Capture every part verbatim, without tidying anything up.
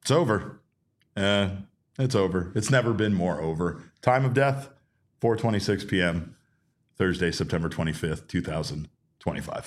It's over. Uh, it's over. It's never been more over. Time of death, four twenty-six p.m., Thursday, September twenty-fifth, twenty twenty-five.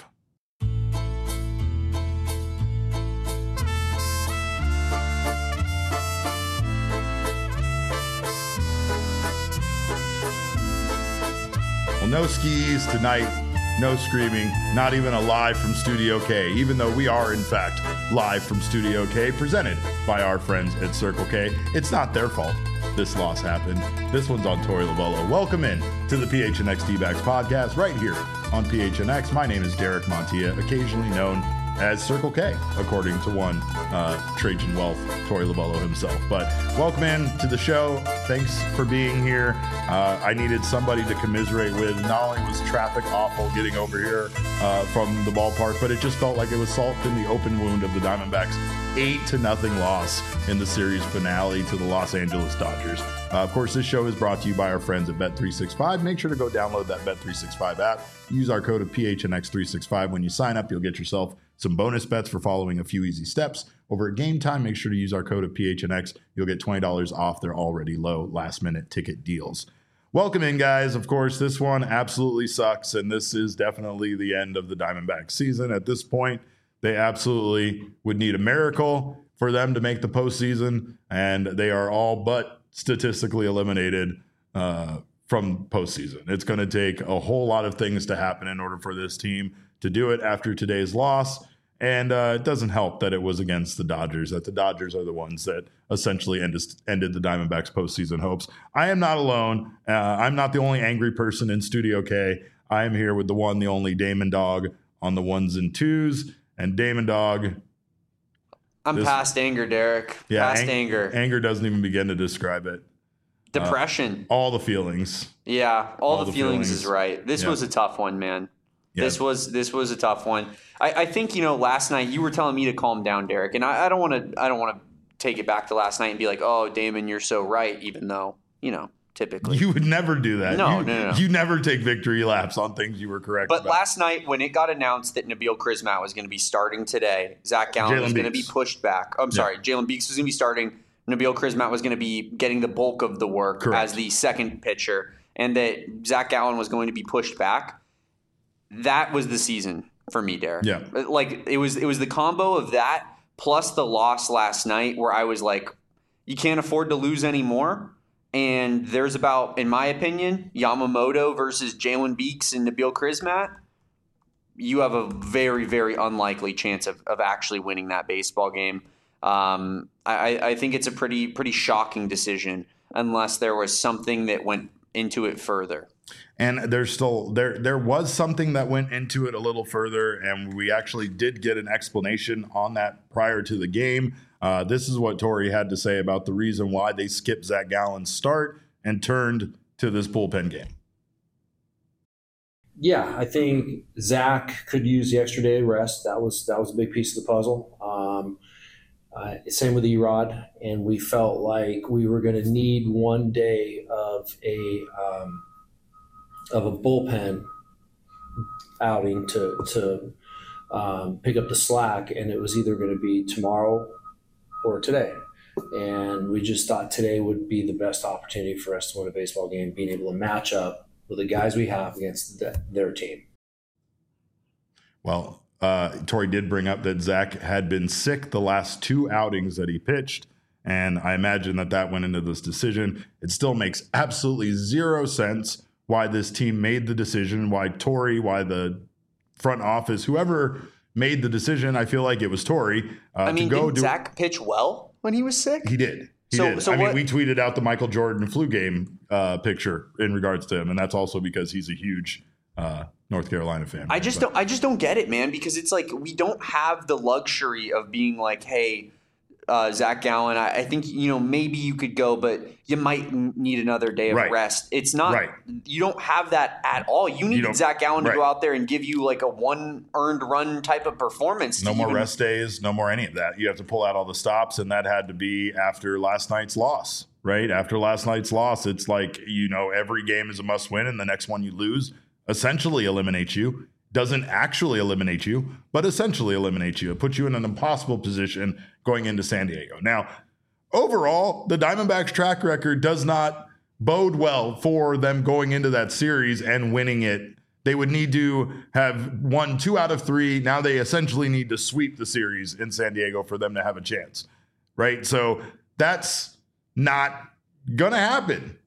Well, no skis tonight, no screaming, not even a live from Studio K, even though we are, in fact, live from Studio K, presented by our friends at Circle K. It's not their fault this loss happened. This one's on Tori Lovello. Welcome in to the P H N X D-Backs podcast right here on P H N X. My name is Derek Montilla, occasionally known as Circle K, according to one uh, Trajan Wealth, Tori Lovello himself. But welcome in to the show. Thanks for being here. Uh, I needed somebody to commiserate with. Not only was traffic awful getting over here uh, from the ballpark, but it just felt like it was salt in the open wound of the Diamondbacks' eight to nothing loss in the series finale to the Los Angeles Dodgers. Uh, of course, this show is brought to you by our friends at Bet three sixty-five. Make sure to go download that Bet three sixty-five app. Use our code of P H N X three sixty-five when you sign up. You'll get yourself some bonus bets for following a few easy steps. Over at Game Time, make sure to use our code of P H N X. You'll get twenty dollars off their already low last-minute ticket deals. Welcome in, guys. Of course, this one absolutely sucks, and this is definitely the end of the Diamondbacks season. At this point, they absolutely would need a miracle for them to make the postseason, and they are all but statistically eliminated uh, from postseason. It's going to take a whole lot of things to happen in order for this team to do it after today's loss. And uh, it doesn't help that it was against the Dodgers, that the Dodgers are the ones that essentially ended, ended the Diamondbacks' postseason hopes. I am not alone. Uh, I'm not the only angry person in Studio K. I am here with the one, the only Damon Dog on the ones and twos. And Damon Dog. I'm this, past anger, Derek. Yeah, past ang- anger. Anger doesn't even begin to describe it. Depression. Uh, all the feelings. Yeah, all, all the, the feelings, feelings is right. This yeah. was a tough one, man. Yeah. This was this was a tough one. I, I think, you know, last night you were telling me to calm down, Derek, and I, I don't want to I don't want to take it back to last night and be like, oh, Damon, you're so right, even though, you know, typically you would never do that. No, you, no, no, no. You never take victory laps on things you were correct but about. Last night when it got announced that Nabil Crismatt was going to be starting today, Zach Gallen Jalen was going to be pushed back. I'm sorry, yeah. Jalen Beeks was going to be starting. Nabil Crismatt was going to be getting the bulk of the work Correct. as the second pitcher, and that Zach Gallen was going to be pushed back. That was the season for me, Derek. Yeah. Like, it was it was the combo of that plus the loss last night where I was like, you can't afford to lose anymore. And there's about, in my opinion, Yamamoto versus Jalen Beeks and Nabil Crismatt. You have a very, very unlikely chance of, of actually winning that baseball game. Um, I, I think it's a pretty pretty shocking decision unless there was something that went into it further. And there's still there there was something that went into it a little further, and we actually did get an explanation on that prior to the game. Uh, this is what Tori had to say about the reason why they skipped Zach Gallen's start and turned to this bullpen game. Yeah, I think Zach could use the extra day of rest. That was that was a big piece of the puzzle. Um, uh, same with Erod, and we felt like we were going to need one day of a um, of a bullpen outing to to um, pick up the slack, and it was either going to be tomorrow or today. And we just thought today would be the best opportunity for us to win a baseball game, being able to match up with the guys we have against the, their team. Well, uh, Tori did bring up that Zach had been sick the last two outings that he pitched, and I imagine that that went into this decision. It still makes absolutely zero sense why this team made the decision, why Tori, why the front office, whoever made the decision. I feel like it was Tori. Uh, I mean, to go did do, Zach pitch well when he was sick? He did. He so, did. So I what, mean, we tweeted out the Michael Jordan flu game uh, picture in regards to him, and that's also because he's a huge uh, North Carolina fan. I just but. don't. I just don't get it, man. Because it's like we don't have the luxury of being like, hey, uh, Zach Gallen. I, I think you know maybe you could go, but you might need another day of right. rest. It's not. Right. You don't have that at all. You need you Zach Gallen to right. go out there and give you like a one earned run type of performance. No more even, rest days. No more any of that. You have to pull out all the stops, and that had to be after last night's loss. Right after last night's loss, it's like you know every game is a must win, and the next one you lose essentially eliminates you. Doesn't actually eliminate you, but essentially eliminates you. It puts you in an impossible position going into San Diego. Now, overall, the Diamondbacks' track record does not bode well for them going into that series and winning it. They would need to have won two out of three. Now they essentially need to sweep the series in San Diego for them to have a chance, right? So that's not going to happen.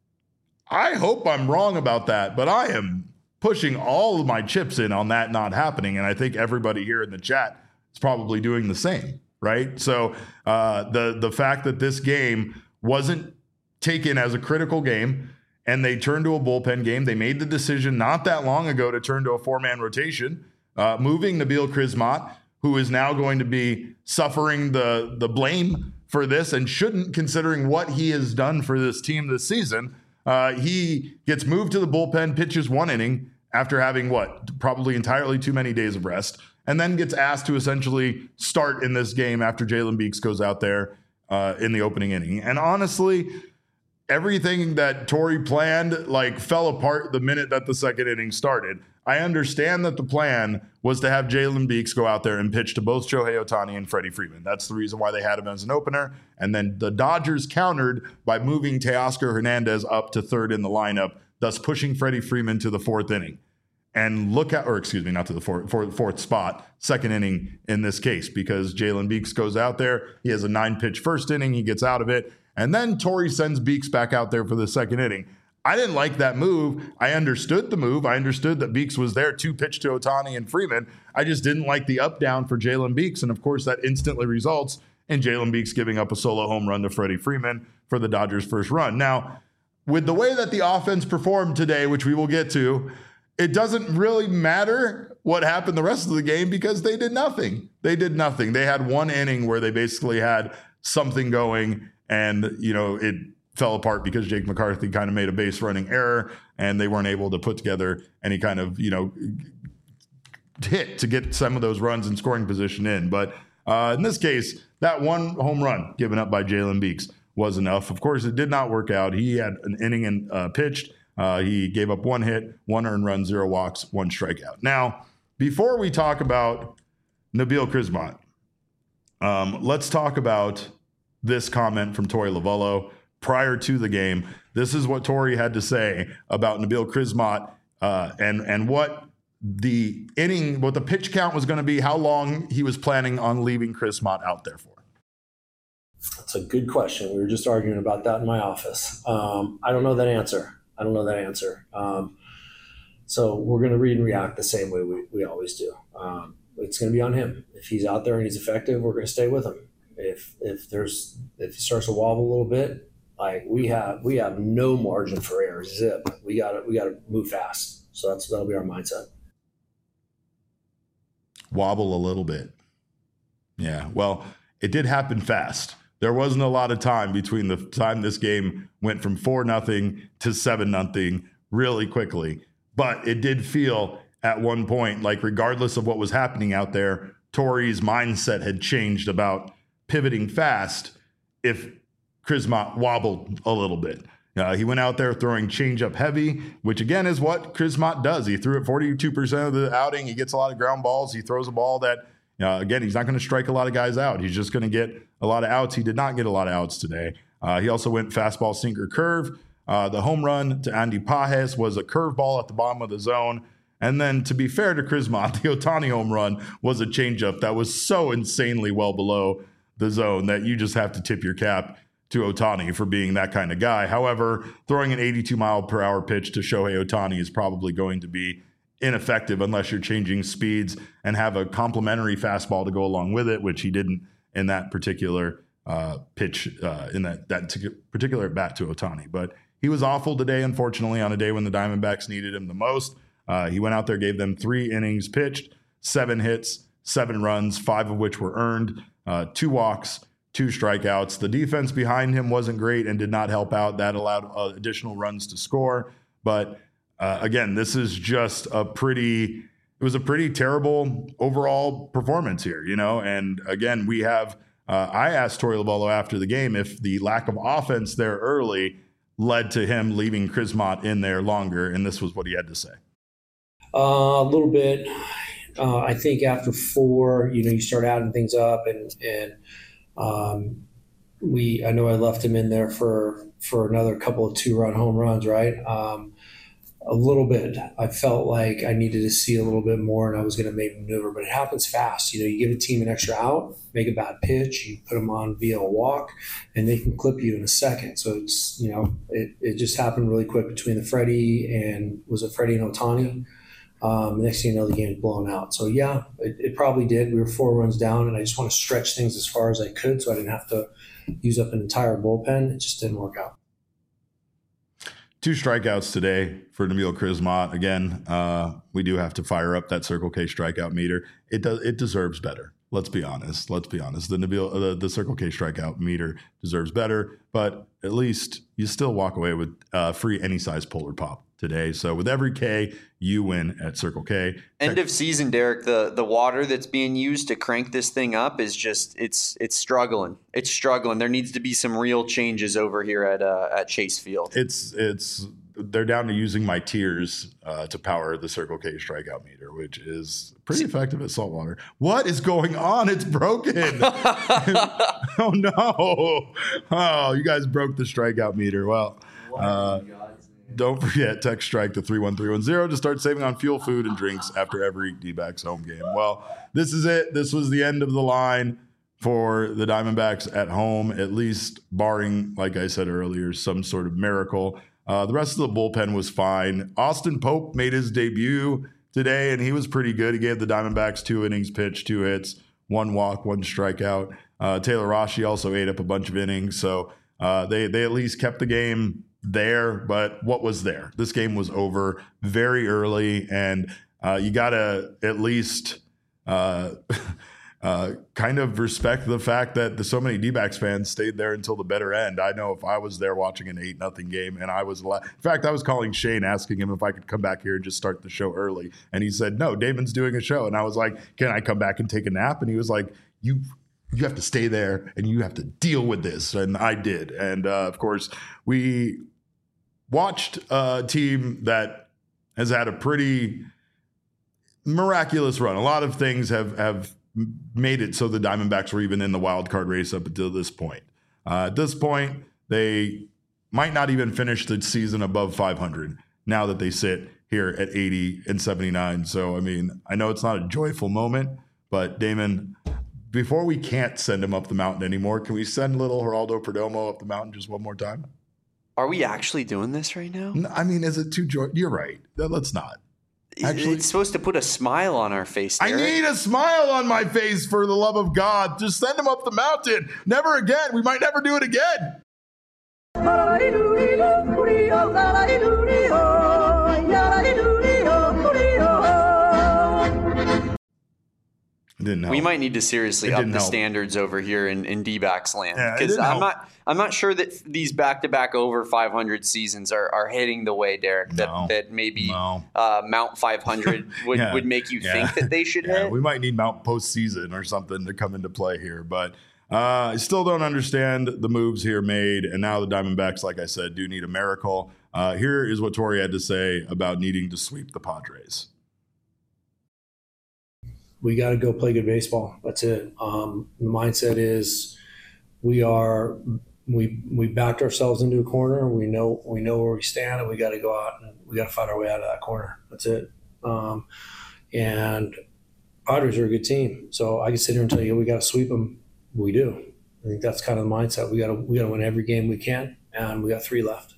I hope I'm wrong about that, but I am pushing all of my chips in on that not happening. And I think everybody here in the chat is probably doing the same, right? So uh, the, the fact that this game wasn't taken as a critical game and they turned to a bullpen game, they made the decision not that long ago to turn to a four-man rotation, uh, moving Nabil Crismatt, who is now going to be suffering the, the blame for this and shouldn't, considering what he has done for this team this season. Uh, he gets moved to the bullpen, pitches one inning after having what, probably entirely too many days of rest, and then gets asked to essentially start in this game after Jalen Beeks goes out there uh, in the opening inning. And honestly, everything that Torey planned like fell apart the minute that the second inning started. I understand that the plan was to have Jalen Beeks go out there and pitch to both Shohei Ohtani and Freddie Freeman. That's the reason why they had him as an opener. And then the Dodgers countered by moving Teoscar Hernandez up to third in the lineup, thus pushing Freddie Freeman to the fourth inning. And look at, or excuse me, not to the fourth, fourth, fourth spot, second inning in this case, because Jalen Beeks goes out there. He has a nine pitch first inning. He gets out of it. And then Torey sends Beeks back out there for the second inning. I didn't like that move. I understood the move. I understood that Beeks was there to pitch to Ohtani and Freeman. I just didn't like the up down for Jalen Beeks. And of course, that instantly results in Jalen Beeks giving up a solo home run to Freddie Freeman for the Dodgers' first run. Now, with the way that the offense performed today, which we will get to, it doesn't really matter what happened the rest of the game because they did nothing. They did nothing. They had one inning where they basically had something going, and, you know, it fell apart because Jake McCarthy kind of made a base running error and they weren't able to put together any kind of, you know, hit to get some of those runs in scoring position in. But uh, in this case, that one home run given up by Jalen Beeks was enough. Of course, it did not work out. He had an inning and uh, pitched. Uh, he gave up one hit, one earned run, zero walks, one strikeout. Now, before we talk about Nabil Crismatt, um, let's talk about this comment from Torey Lovullo prior to the game. This is what Torey had to say about Nabil Crismatt uh, and and what the inning, what the pitch count was going to be, how long he was planning on leaving Crismatt out there for. That's a good question. We were just arguing about that in my office. Um, I don't know that answer. I don't know that answer. Um, so we're going to read and react the same way we, we always do. Um, it's going to be on him. If he's out there and he's effective, we're going to stay with him. If if there's if he starts to wobble a little bit, like we have we have no margin for error. Zip. We got to we got to move fast. So that's that'll be our mindset. Wobble a little bit. Yeah. Well, it did happen fast. There wasn't a lot of time between the time this game went from four nothing to seven nothing really quickly. But it did feel at one point like, regardless of what was happening out there, Torey's mindset had changed about pivoting fast if Crismatt wobbled a little bit. Uh, he went out there throwing changeup heavy, which again is what Crismatt does. He threw it forty-two percent of the outing. He gets a lot of ground balls. He throws a ball that, uh, again, he's not going to strike a lot of guys out. He's just going to get a lot of outs. He did not get a lot of outs today. Uh, he also went fastball, sinker, curve. Uh, the home run to Andy Pages was a curveball at the bottom of the zone. And then, to be fair to Crismatt, the Ohtani home run was a changeup that was so insanely well below the zone that you just have to tip your cap to Ohtani for being that kind of guy. However, throwing an eighty-two mile per hour pitch to Shohei Ohtani is probably going to be ineffective unless you're changing speeds and have a complementary fastball to go along with it, which he didn't in that particular uh, pitch, uh, in that, that t- particular bat to Ohtani. But he was awful today, unfortunately, on a day when the Diamondbacks needed him the most. Uh, he went out there, gave them three innings pitched, seven hits, seven runs, five of which were earned, uh, two walks, two strikeouts. The defense behind him wasn't great and did not help out. That allowed uh, additional runs to score. But uh, again, this is just a pretty, it was a pretty terrible overall performance here, you know? And again, we have, uh, I asked Torey Lovullo after the game if the lack of offense there early led to him leaving Crismatt in there longer. And this was what he had to say. Uh, a little bit. Uh, I think after four, you know, you start adding things up and, and, um, we I know I left him in there for for another couple of two run home runs, right? Um, a little bit. I felt like I needed to see a little bit more, and I was going to make a maneuver, but it happens fast. You know, you give a team an extra out, make a bad pitch, you put them on via a walk, and they can clip you in a second. So it's, you know, it, it just happened really quick between the Freddie and was it Freddie and Ohtani? Um, the next thing you know, the game's blown out. So yeah, it, it probably did. We were four runs down, and I just want to stretch things as far as I could, so I didn't have to use up an entire bullpen. It just didn't work out. Two strikeouts today for Nabil Crismot. Again, uh, we do have to fire up that Circle K strikeout meter. It does. It deserves better. Let's be honest. Let's be honest. The Nabil, uh, the, the Circle K strikeout meter deserves better. But at least you still walk away with uh, free any size Polar Pop today. So with every K, you win at Circle K. End of season, Derek. The the water that's being used to crank this thing up is just it's it's struggling. It's struggling. There needs to be some real changes over here at uh, at Chase Field. It's it's they're down to using my tears uh, to power the Circle K strikeout meter, which is pretty effective at saltwater. What is going on? It's broken. Oh no! Oh, you guys broke the strikeout meter. Well. Uh, Don't forget, text strike to three one three one zero to start saving on fuel, food, and drinks after every D-backs home game. Well, this is it. This was the end of the line for the Diamondbacks at home, at least barring, like I said earlier, some sort of miracle. Uh, the rest of the bullpen was fine. Austin Pope made his debut today, and he was pretty good. He gave the Diamondbacks two innings pitched, two hits, one walk, one strikeout. Uh, Taylor Rossi also ate up a bunch of innings, so uh, they, they at least kept the game there, but what was there? This game was over very early, and uh, you got to at least uh, uh, kind of respect the fact that the, so many D-backs fans stayed there until the better end. I know if I was there watching an eight nothing game, and I was, la- in fact, I was calling Shane asking him if I could come back here and just start the show early, and he said, no, Damon's doing a show, and I was like, can I come back and take a nap? And he was like, you you have to stay there and you have to deal with this. And I did. And uh, of course, we watched a team that has had a pretty miraculous run. A lot of things have, have made it so the Diamondbacks were even in the wild card race up until this point. Uh, at this point, they might not even finish the season above five hundred now that they sit here at eighty and seventy-nine. So, I mean, I know it's not a joyful moment, but Damon, before we can't send him up the mountain anymore, can we send little Geraldo Perdomo up the mountain just one more time? Are we actually doing this right now? I mean, is it too joy? You're right. Let's not. Actually, it's supposed to put a smile on our face, Derek. I need a smile on my face, for the love of God. Just send him up the mountain. Never again. We might never do it again. Didn't help. We might need to seriously up the help. standards over here in, in D-backs land, Yeah, because I'm help. not I'm not sure that these back-to-back over five hundred seasons are, are hitting the way, Derek, that, No. that maybe No. uh, Mount five hundred would, Yeah. would make you Yeah. think that they should Yeah, hit. we might need Mount postseason or something to come into play here, but uh, I still don't understand the moves here made. And now the Diamondbacks, like I said, do need a miracle. Uh, here is what Torey had to say about needing to sweep the Padres. We got to go play good baseball. That's it. Um, the mindset is we are we we backed ourselves into a corner. We know we know where we stand, and we got to go out and we got to fight our way out of that corner. That's it. Um, and Padres are a good team, so I can sit here and tell you we got to sweep them. We do. I think that's kind of the mindset. We got to we got to win every game we can, and we got three left.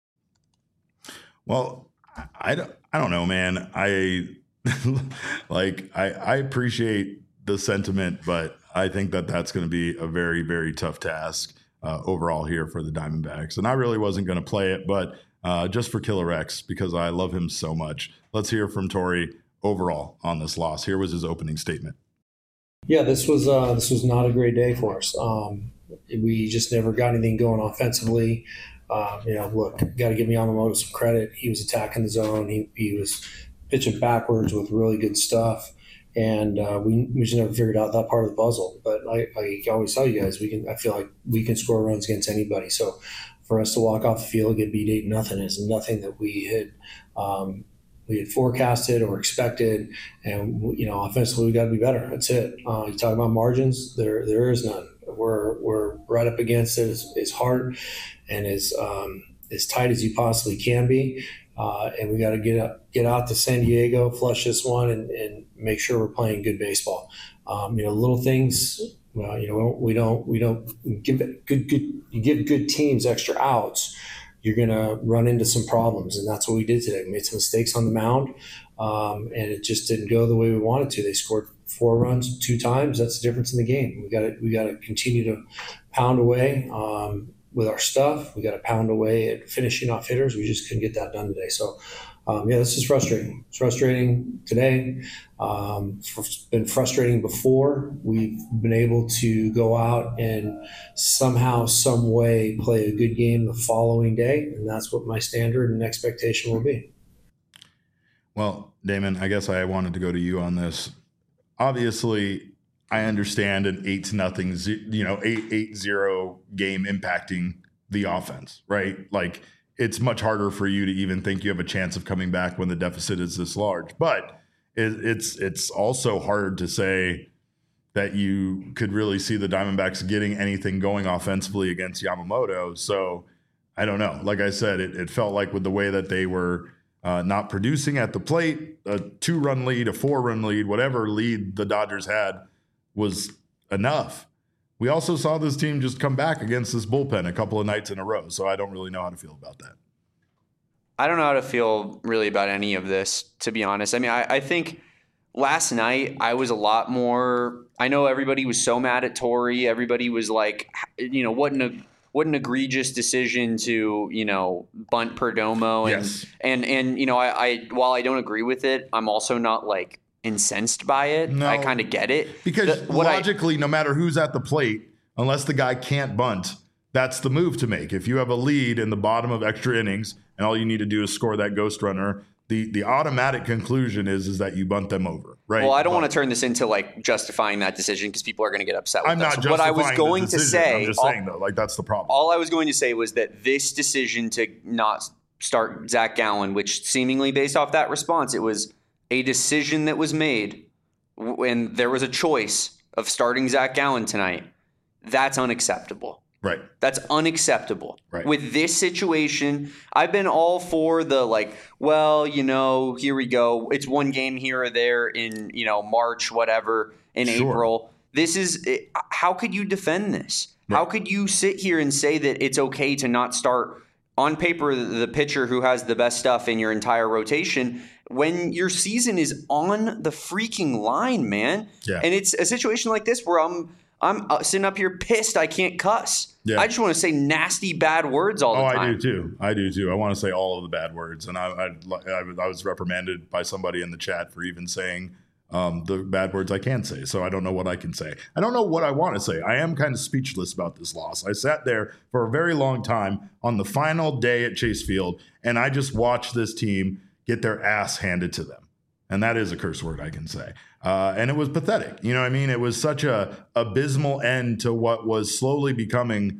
Well, I don't, I don't know, man. I like I, I appreciate the sentiment, but I think that that's going to be a very, very tough task uh, overall here for the Diamondbacks. And I really wasn't going to play it, but uh, just for Killer X, because I love him so much. Let's hear from Torey overall on this loss. Here was his opening statement. Yeah, this was uh, this was not a great day for us. Um, we just never got anything going offensively. Uh, you know, look, got to give Yamamoto some credit. He was attacking the zone. He he was pitching backwards with really good stuff, and uh, we we just never figured out that part of the puzzle. But I, I always tell you guys, we can. I feel like we can score runs against anybody. So for us to walk off the field and get beat eight nothing is nothing that we had um, we had forecasted or expected. And you know, offensively, we got to be better. That's it. Uh, you talk about margins. There there is none. We're we're right up against it as, as hard and as um, as tight as you possibly can be. Uh, and we got to get up, get out to San Diego, flush this one, and, and make sure we're playing good baseball. Um, you know, little things. Well, you know, we don't we don't give it good good. You give good teams extra outs, you're going to run into some problems, and that's what we did today. We made some mistakes on the mound, um, and it just didn't go the way we wanted to. They scored four runs two times. That's the difference in the game. We got to we got to continue to pound away um, with our stuff. We got to pound away at finishing off hitters. We just couldn't get that done today. So, um, yeah, this is frustrating. It's frustrating today. Um, it's been frustrating before. We've been able to go out and somehow, some way, play a good game the following day, and that's what my standard and expectation will be. Well, Damon, I guess I wanted to go to you on this. Obviously, I understand an eight to nothing, you know, eight eight zero game impacting the offense, right? Like, it's much harder for you to even think you have a chance of coming back when the deficit is this large. But it, it's it's also hard to say that you could really see the Diamondbacks getting anything going offensively against Yamamoto. So I don't know. Like I said, it, it felt like with the way that they were uh, not producing at the plate, a two-run lead, a four-run lead, whatever lead the Dodgers had was enough. We also saw this team just come back against this bullpen a couple of nights in a row, so I don't really know how to feel about that. I don't know how to feel really about any of this, to be honest. I mean, I, I think last night I was a lot more – I know everybody was so mad at Torrey. Everybody was like, you know, what an, what an egregious decision to, you know, bunt Perdomo. And, yes. and, and you know, I, I while I don't agree with it, I'm also not like – incensed by it. No, I kind of get it. Because the, logically, I, no matter who's at the plate, unless the guy can't bunt, that's the move to make. If you have a lead in the bottom of extra innings and all you need to do is score that ghost runner, the the automatic conclusion is is that you bunt them over, right? Well, I don't but, want to turn this into like justifying that decision because people are going to get upset with I'm us. not justifying What I was going the to decision. say, I'm just all, saying though, like that's the problem. All I was going to say was that this decision to not start Zach Gallen, which seemingly based off that response, it was a decision that was made when there was a choice of starting Zach Gallen tonight. That's unacceptable. Right. That's unacceptable. Right. With this situation, I've been all for the like, well, you know, here we go. It's one game here or there in, you know, March, whatever, in Sure. April. This is – how could you defend this? Right. How could you sit here and say that it's okay to not start on paper the pitcher who has the best stuff in your entire rotation when your season is on the freaking line, man? Yeah. And it's a situation like this where I'm I'm sitting up here pissed I can't cuss. Yeah. I just want to say nasty, bad words all the oh, time. I do too. I do too. I want to say all of the bad words. And I, I, I, I was reprimanded by somebody in the chat for even saying um, the bad words I can say. So I don't know what I can say. I don't know what I want to say. I am kind of speechless about this loss. I sat there for a very long time on the final day at Chase Field, and I just watched this team get their ass handed to them. And that is a curse word I can say. Uh, and it was pathetic. You know what I mean? It was such a abysmal end to what was slowly becoming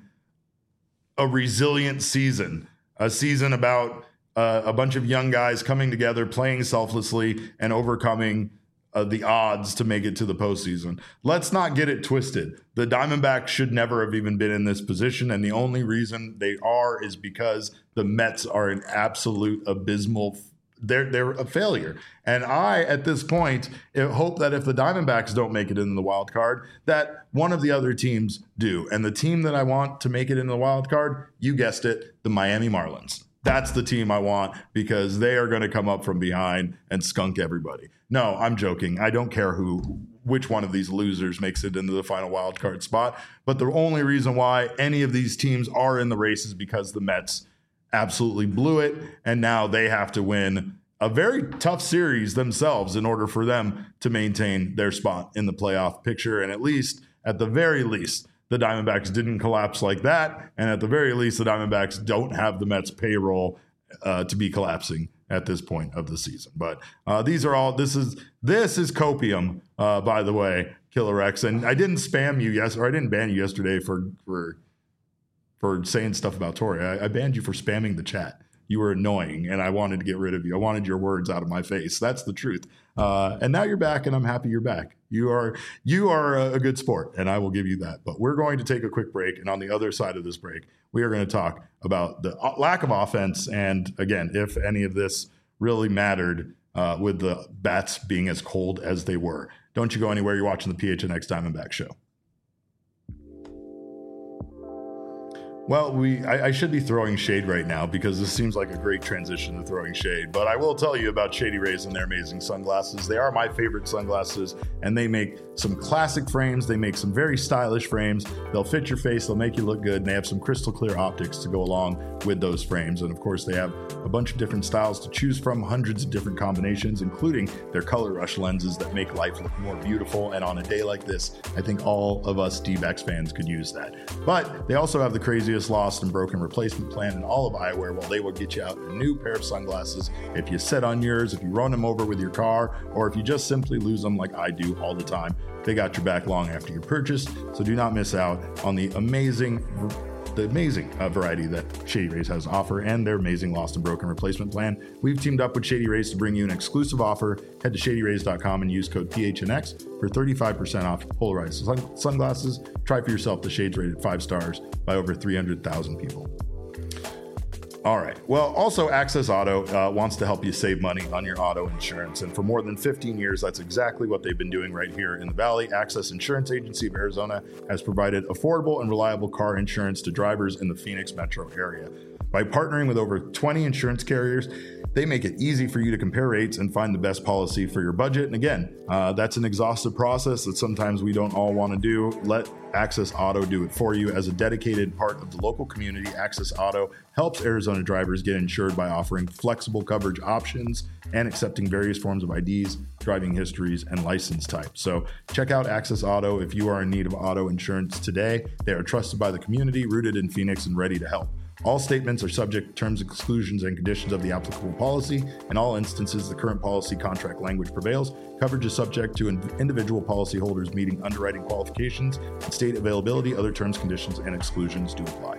a resilient season, a season about uh, a bunch of young guys coming together, playing selflessly, and overcoming uh, the odds to make it to the postseason. Let's not get it twisted. The Diamondbacks should never have even been in this position, and the only reason they are is because the Mets are an absolute abysmal They're they're a failure. And I, at this point, hope that if the Diamondbacks don't make it into the wild card, that one of the other teams do. And the team that I want to make it into the wild card, you guessed it, the Miami Marlins. That's the team I want because they are going to come up from behind and skunk everybody. No, I'm joking. I don't care who, which one of these losers makes it into the final wild card spot. But the only reason why any of these teams are in the race is because the Mets absolutely blew it, and now they have to win a very tough series themselves in order for them to maintain their spot in the playoff picture. And at least, at the very least, the Diamondbacks didn't collapse like that, and at the very least, the Diamondbacks don't have the Mets payroll uh, to be collapsing at this point of the season. But uh, these are all, this is this is copium, uh, by the way, Killer X. And I didn't spam you, yes, or I didn't ban you yesterday for for for saying stuff about Torrey. I, I banned you for spamming the chat. you were annoying and I wanted to get rid of you. I wanted your words out of my face. That's the truth. Uh, and now you're back, and I'm happy you're back. You are you are a, a good sport, and I will give you that. But we're going to take a quick break, and on the other side of this break, we are going to talk about the lack of offense, and again, if any of this really mattered uh, with the bats being as cold as they were. Don't you go anywhere. You're watching the P H N X Diamondback Show. Well, we I, I should be throwing shade right now because this seems like a great transition to throwing shade. But I will tell you about Shady Rays and their amazing sunglasses. They are my favorite sunglasses, and they make some classic frames. They make some very stylish frames. They'll fit your face. They'll make you look good. And they have some crystal clear optics to go along with those frames. And of course, they have a bunch of different styles to choose from, hundreds of different combinations, including their color rush lenses that make life look more beautiful. And on a day like this, I think all of us D-backs fans could use that. But they also have the craziest lost and broken replacement plan in all of eyewear. Well, they will get you out a new pair of sunglasses if you sit on yours, if you run them over with your car, or if you just simply lose them like I do all the time. They got your back long after your purchase, so do not miss out on the amazing the amazing uh, variety that Shady Rays has to offer and their amazing lost and broken replacement plan. We've teamed up with Shady Rays to bring you an exclusive offer. Head to shady rays dot com and use code P H N X for thirty-five percent off polarized sun- sunglasses. Try for yourself the shades rated five stars by over three hundred thousand people. All right. Well, also Access Auto uh, wants to help you save money on your auto insurance. And for more than fifteen years, that's exactly what they've been doing right here in the Valley. Access Insurance Agency of Arizona has provided affordable and reliable car insurance to drivers in the Phoenix metro area. By partnering with over twenty insurance carriers, they make it easy for you to compare rates and find the best policy for your budget. And again, uh, that's an exhaustive process that sometimes we don't all want to do. Let Access Auto do it for you. As a dedicated part of the local community, Access Auto helps Arizona drivers get insured by offering flexible coverage options and accepting various forms of I Ds, driving histories, and license types. So check out Access Auto if you are in need of auto insurance today. They are trusted by the community, rooted in Phoenix, and ready to help. All statements are subject to terms, exclusions, and conditions of the applicable policy. In all instances, the current policy contract language prevails. Coverage is subject to individual policyholders meeting underwriting qualifications and state availability. Other terms, conditions, and exclusions do apply.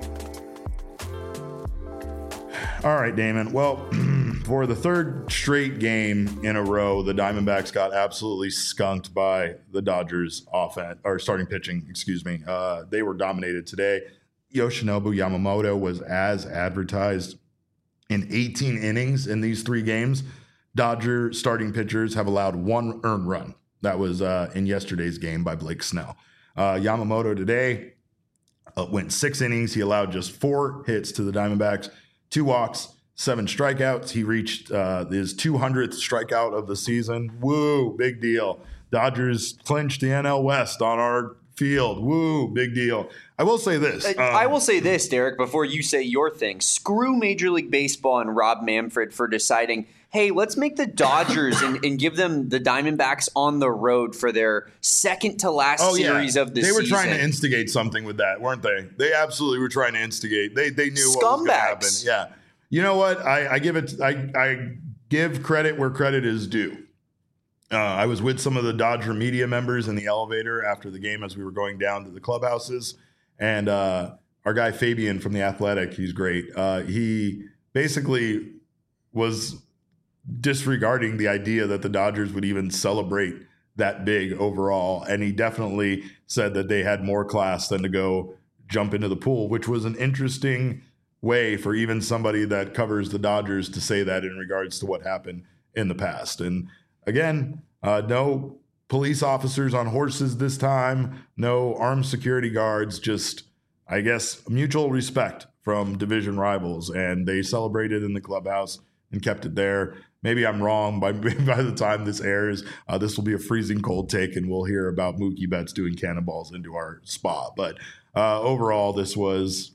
All right, Damon. Well, for the third straight game in a row, the Diamondbacks got absolutely skunked by the Dodgers offense, or starting pitching, excuse me. Uh, they were dominated today. Yoshinobu Yamamoto was as advertised in eighteen innings in these three games. Dodger starting pitchers have allowed one earned run. That was uh, in yesterday's game by Blake Snell. Uh, Yamamoto today uh, went six innings. He allowed just four hits to the Diamondbacks, two walks, seven strikeouts. He reached uh, his two hundredth strikeout of the season. Woo, big deal. Dodgers clinched the N L West on our field. Woo, big deal. I will say this. Um, I will say this, Derek, before you say your thing. Screw Major League Baseball and Rob Manfred for deciding, hey, let's make the Dodgers and, and give them the Diamondbacks on the road for their second to last oh, series yeah. of the they season. They were trying to instigate something with that, weren't they? They absolutely were trying to instigate. They they knew what was going to happen. Yeah. You know what? I, I give it. I, I give credit where credit is due. Uh, I was with some of the Dodger media members in the elevator after the game as we were going down to the clubhouses. And uh, our guy Fabian from The Athletic, he's great. Uh, he basically was disregarding the idea that the Dodgers would even celebrate that big overall. And he definitely said that they had more class than to go jump into the pool, which was an interesting way for even somebody that covers the Dodgers to say that in regards to what happened in the past. And again, uh, no police officers on horses this time, no armed security guards, just, I guess, mutual respect from division rivals. And they celebrated in the clubhouse and kept it there. Maybe I'm wrong. By, by the time this airs, uh, this will be a freezing cold take, and we'll hear about Mookie Betts doing cannonballs into our spa. But uh, overall, this was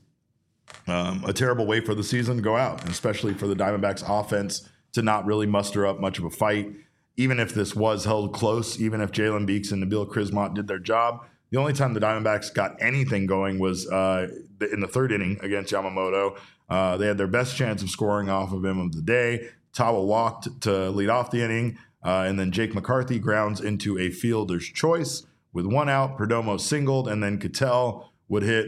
um, a terrible way for the season to go out, especially for the Diamondbacks offense to not really muster up much of a fight. Even if this was held close, even if Jalen Beeks and Nabil Krismat did their job, the only time the Diamondbacks got anything going was uh, in the third inning against Yamamoto. Uh, they had their best chance of scoring off of him of the day. Tawa walked to lead off the inning, uh, and then Jake McCarthy grounds into a fielder's choice with one out. Perdomo singled, and then Ketel would hit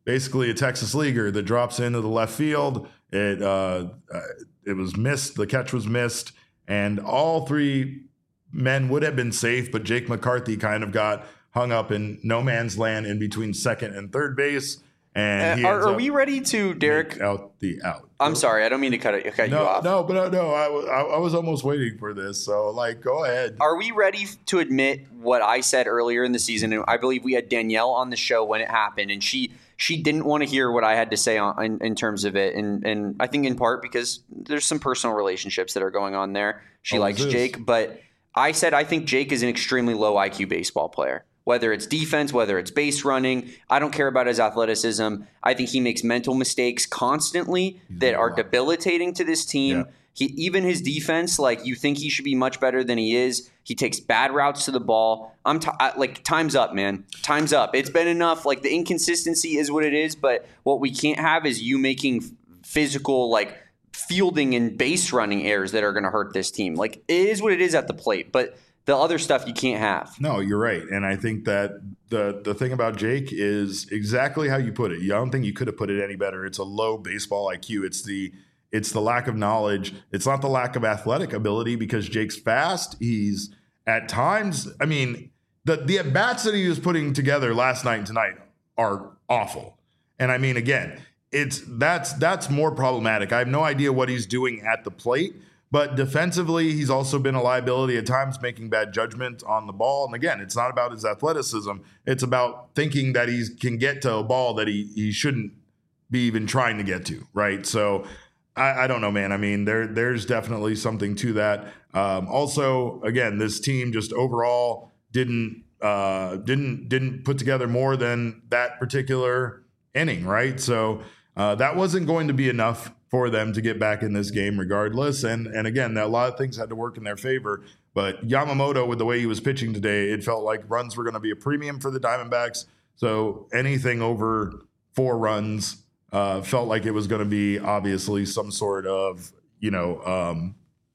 basically a Texas leaguer that drops into the left field. It uh, uh, it was missed. The catch was missed, and all three men would have been safe, but Jake McCarthy kind of got hung up in no man's land in between second and third base. And he uh, are, are we ready to, Derek? Out the out. I'm sorry, I don't mean to cut, it, cut no, you off. No, but no, no I, I, I was almost waiting for this. So, like, go ahead. Are we ready to admit what I said earlier in the season? And I believe we had Danielle on the show when it happened, and she she didn't want to hear what I had to say on, in, in terms of it. And and I think in part because there's some personal relationships that are going on there. She oh, likes Jake, but I said I think Jake is an extremely low I Q baseball player. Whether it's defense, whether it's base running, I don't care about his athleticism. I think he makes mental mistakes constantly that are debilitating to this team. Yeah. He, even his defense, like you think he should be much better than he is. He takes bad routes to the ball. I'm t- I, like, time's up, man. Time's up. It's been enough. Like the inconsistency is what it is, but what we can't have is you making physical, like fielding and base running errors that are going to hurt this team. Like it is what it is at the plate, but the other stuff you can't have. No, you're right. And I think that the the thing about Jake is exactly how you put it. I don't think you could have put it any better. It's a low baseball I Q. It's the it's the lack of knowledge. It's not the lack of athletic ability because Jake's fast. He's at times, I mean, the the at-bats that he was putting together last night and tonight are awful. And I mean, again, it's that's that's more problematic. I have no idea what he's doing at the plate. But defensively, he's also been a liability at times, making bad judgment on the ball. And again, it's not about his athleticism. It's about thinking that he can get to a ball that he he shouldn't be even trying to get to, right? So I, I don't know, man. I mean, there there's definitely something to that. Um, also, again, this team just overall didn't uh, didn't didn't put together more than that particular inning, right? So uh, that wasn't going to be enough for them to get back in this game regardless. And and again, a lot of things had to work in their favor. But Yamamoto, with the way he was pitching today, it felt like runs were going to be a premium for the Diamondbacks. So anything over four runs uh, felt like it was going to be obviously some sort of, you know, um,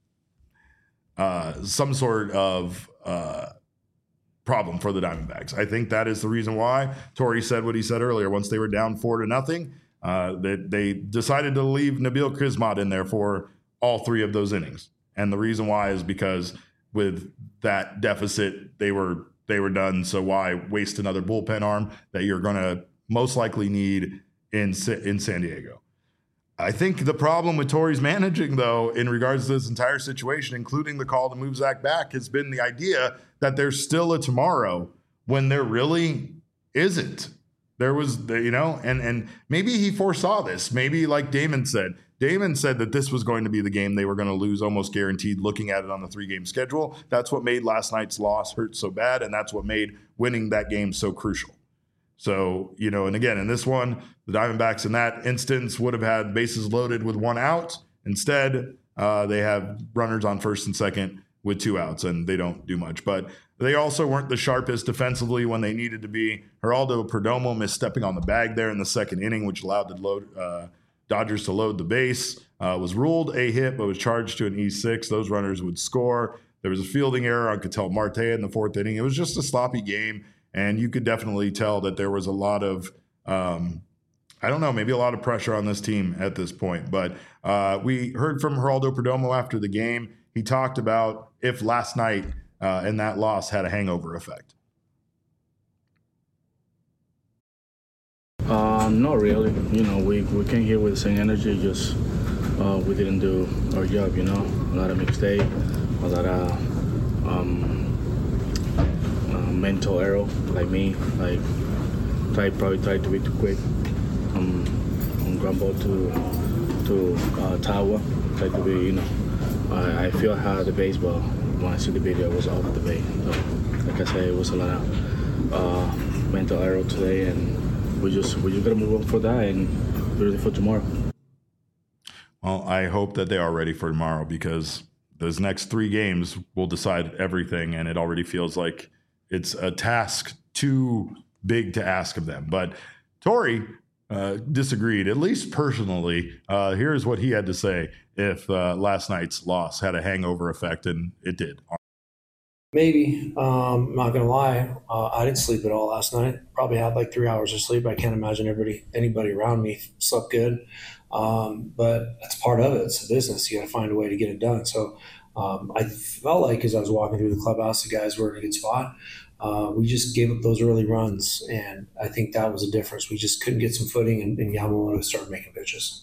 uh, some sort of uh, problem for the Diamondbacks. I think that is the reason why Torey said what he said earlier. Once they were down four to nothing, Uh, they, they decided to leave Nabil Kismat in there for all three of those innings. And the reason why is because with that deficit, they were they were done. So why waste another bullpen arm that you're going to most likely need in, in San Diego? I think the problem with Torey's managing, though, in regards to this entire situation, including the call to move Zach back, has been the idea that there's still a tomorrow when there really isn't. There was, you know, and and maybe he foresaw this. Maybe like Damon said, Damon said that this was going to be the game they were going to lose almost guaranteed looking at it on the three-game schedule. That's what made last night's loss hurt so bad, and that's what made winning that game so crucial. So, you know, and again, in this one, the Diamondbacks in that instance would have had bases loaded with one out. Instead, uh, they have runners on first and second with two outs, and they don't do much. But they also weren't the sharpest defensively when they needed to be. Geraldo Perdomo misstepping on the bag there in the second inning, which allowed the load, uh, Dodgers to load the base. Uh, was ruled a hit, but was charged to an E six. Those runners would score. There was a fielding error on Ketel Marte in the fourth inning. It was just a sloppy game, and you could definitely tell that there was a lot of, um, I don't know, maybe a lot of pressure on this team at this point. But uh, we heard from Geraldo Perdomo after the game. He talked about if last night uh, and that loss had a hangover effect. Uh, not really. You know, we, we came here with the same energy, just uh, we didn't do our job, you know. A lot of mistakes, a lot of um, uh, mental error, like me. Like, try, probably tried to be too quick um, on ground ball to, to uh, Tawa. Tried to be, you know. I, I feel how the baseball, when I see the video, was off the bay. So, like I said, it was a lot of uh, mental error today, and we just we just gotta move on for that and be ready for tomorrow. Well, I hope that they are ready for tomorrow because those next three games will decide everything, and it already feels like it's a task too big to ask of them. But Torey uh, disagreed, at least personally. Uh, here's what he had to say if uh, last night's loss had a hangover effect, and it did. Maybe. Um, I'm not gonna lie. Uh, I didn't sleep at all last night. Probably had like three hours of sleep. I can't imagine everybody, anybody around me slept good. Um, but that's part of it. It's a business. You got to find a way to get it done. So um, I felt like as I was walking through the clubhouse, the guys were in a good spot. Uh, we just gave up those early runs, and I think that was a difference. We just couldn't get some footing, and, and Yamamoto started making pitches.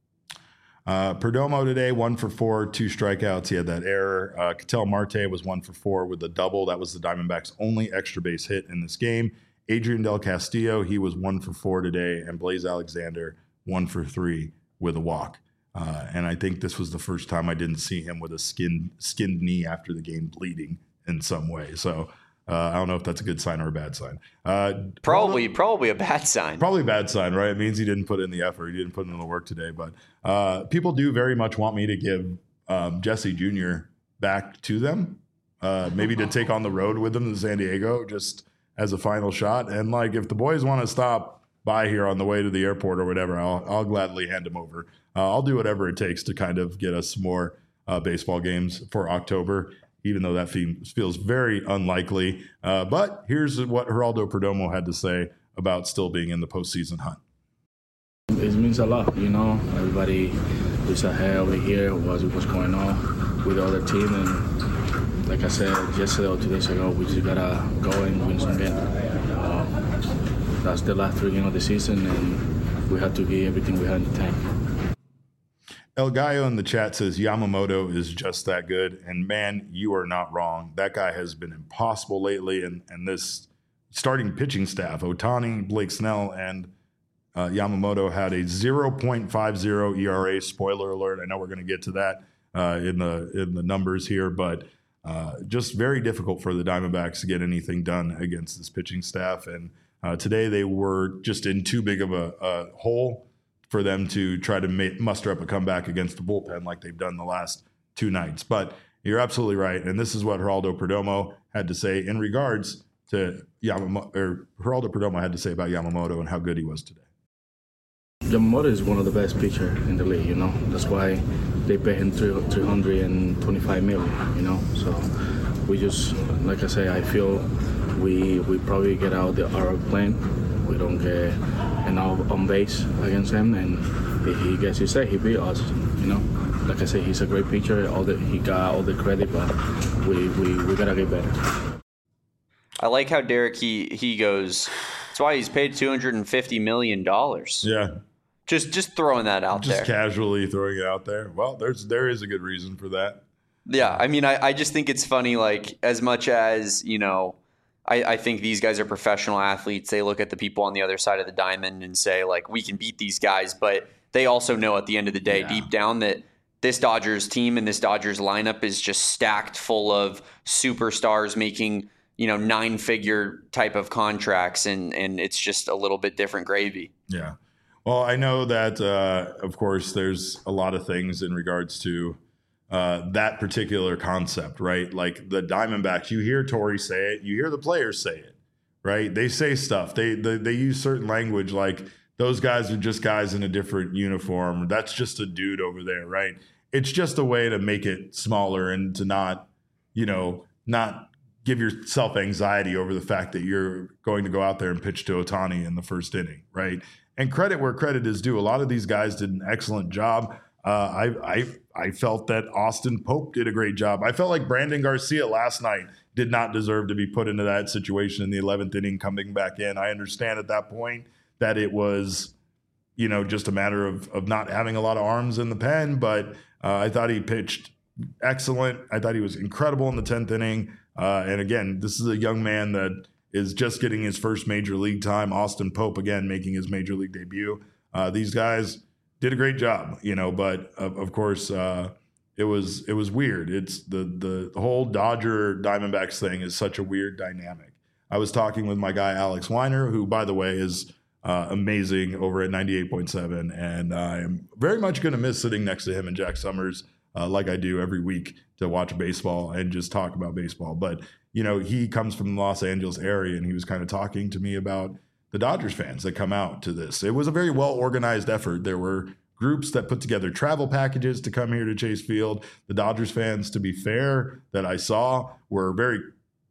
Uh, Perdomo today, one for four, two strikeouts. He had that error. Uh, Ketel Marte was one for four with a double. That was the Diamondbacks' only extra base hit in this game. Adrian Del Castillo, he was one for four today. And Blaze Alexander, one for three with a walk. Uh, and I think this was the first time I didn't see him with a skinned, skinned knee after the game bleeding in some way. So Uh, I don't know if that's a good sign or a bad sign. Uh, probably, probably a bad sign. Probably a bad sign, right? It means he didn't put in the effort. He didn't put in the work today. But uh, people do very much want me to give um, Jesse Junior back to them, uh, maybe to take on the road with them to San Diego just as a final shot. And like, if the boys want to stop by here on the way to the airport or whatever, I'll, I'll gladly hand him over. Uh, I'll do whatever it takes to kind of get us some more uh, baseball games for October, even though that feels very unlikely. Uh, but here's what Geraldo Perdomo had to say about still being in the postseason hunt. It means a lot, you know. Everybody is ahead over here, what's, what's going on with the other team. And like I said yesterday or two days ago, we just got to go and win some games. Uh, that's the last three games of the season, and we have to give everything we have in the tank. El Gallo in the chat says Yamamoto is just that good. And man, you are not wrong. That guy has been impossible lately. And, and this starting pitching staff, Ohtani, Blake Snell, and uh, Yamamoto had a zero point five oh E R A. Spoiler alert. I know we're going to get to that uh, in the in the numbers here, but uh, just very difficult for the Diamondbacks to get anything done against this pitching staff. And uh, today they were just in too big of a, a hole for them to try to make, muster up a comeback against the bullpen like they've done the last two nights. But you're absolutely right. And this is what Geraldo Perdomo had to say in regards to Yamamoto, or Geraldo Perdomo had to say about Yamamoto and how good he was today. Yamamoto is one of the best pitchers in the league, you know. That's why they pay him three hundred twenty-five million dollars, you know. So we just, like I say, I feel we we probably get out the our plane. We don't get enough on base against him, and if he gets his say, he beat us. You know, like I say, he's a great pitcher. All the he got all the credit, but we we, we gotta get better. I like how Derek he he goes. That's why he's paid two hundred and fifty million dollars. Yeah, just just throwing that out just there. Just casually throwing it out there. Well, there's there is a good reason for that. Yeah, I mean, I I just think it's funny. Like, as much as, you know, I, I think these guys are professional athletes. They look at the people on the other side of the diamond and say, like, we can beat these guys. But they also know at the end of the day, yeah, deep down, that this Dodgers team and this Dodgers lineup is just stacked full of superstars making, you know, nine-figure type of contracts. And, and it's just a little bit different gravy. Yeah. Well, I know that, uh, of course, there's a lot of things in regards to Uh, that particular concept, right? Like the Diamondbacks, you hear Torey say it, you hear the players say it, right? They say stuff. They, they they use certain language like those guys are just guys in a different uniform. That's just a dude over there, right? It's just a way to make it smaller and to not, you know, not give yourself anxiety over the fact that you're going to go out there and pitch to Ohtani in the first inning, right? And credit where credit is due. A lot of these guys did an excellent job. Uh, I, I I felt that Austin Pope did a great job. I felt like Brandon Garcia last night did not deserve to be put into that situation in the eleventh inning coming back in. I understand at that point that it was, you know, just a matter of, of not having a lot of arms in the pen, but uh, I thought he pitched excellent. I thought he was incredible in the tenth inning. Uh, and again, this is a young man that is just getting his first major league time. Austin Pope, again, making his major league debut. Uh, these guys did a great job, you know, but of, of course uh, it was it was weird. It's the, the the whole Dodger Diamondbacks thing is such a weird dynamic. I was talking with my guy Alex Weiner, who, by the way, is uh, amazing over at ninety-eight point seven, and I am very much going to miss sitting next to him and Jack Summers uh, like I do every week to watch baseball and just talk about baseball. But you know, he comes from the Los Angeles area, and he was kind of talking to me about the Dodgers fans that come out to this. It was a very well-organized effort. There were groups that put together travel packages to come here to Chase Field. The Dodgers fans, to be fair, that I saw were very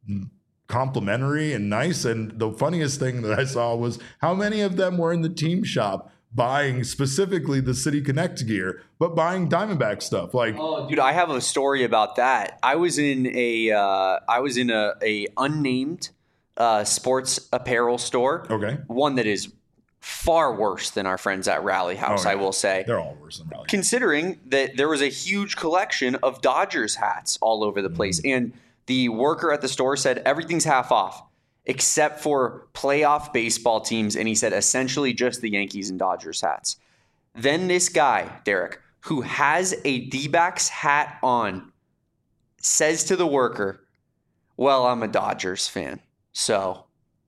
complimentary and nice. And the funniest thing that I saw was how many of them were in the team shop buying specifically the City Connect gear, but buying Diamondback stuff. Like, oh, dude, I have a story about that. I was in a, uh, I was in a, a unnamed uh, sports apparel store. Okay. One that is far worse than our friends at Rally House, oh, yeah. I will say. They're all worse than Rally House. Considering that there was a huge collection of Dodgers hats all over the place. Mm-hmm. And the worker at the store said everything's half off except for playoff baseball teams. And he said essentially just the Yankees and Dodgers hats. Then this guy, Derek, who has a D-backs hat on, says to the worker, well, I'm a Dodgers fan. So,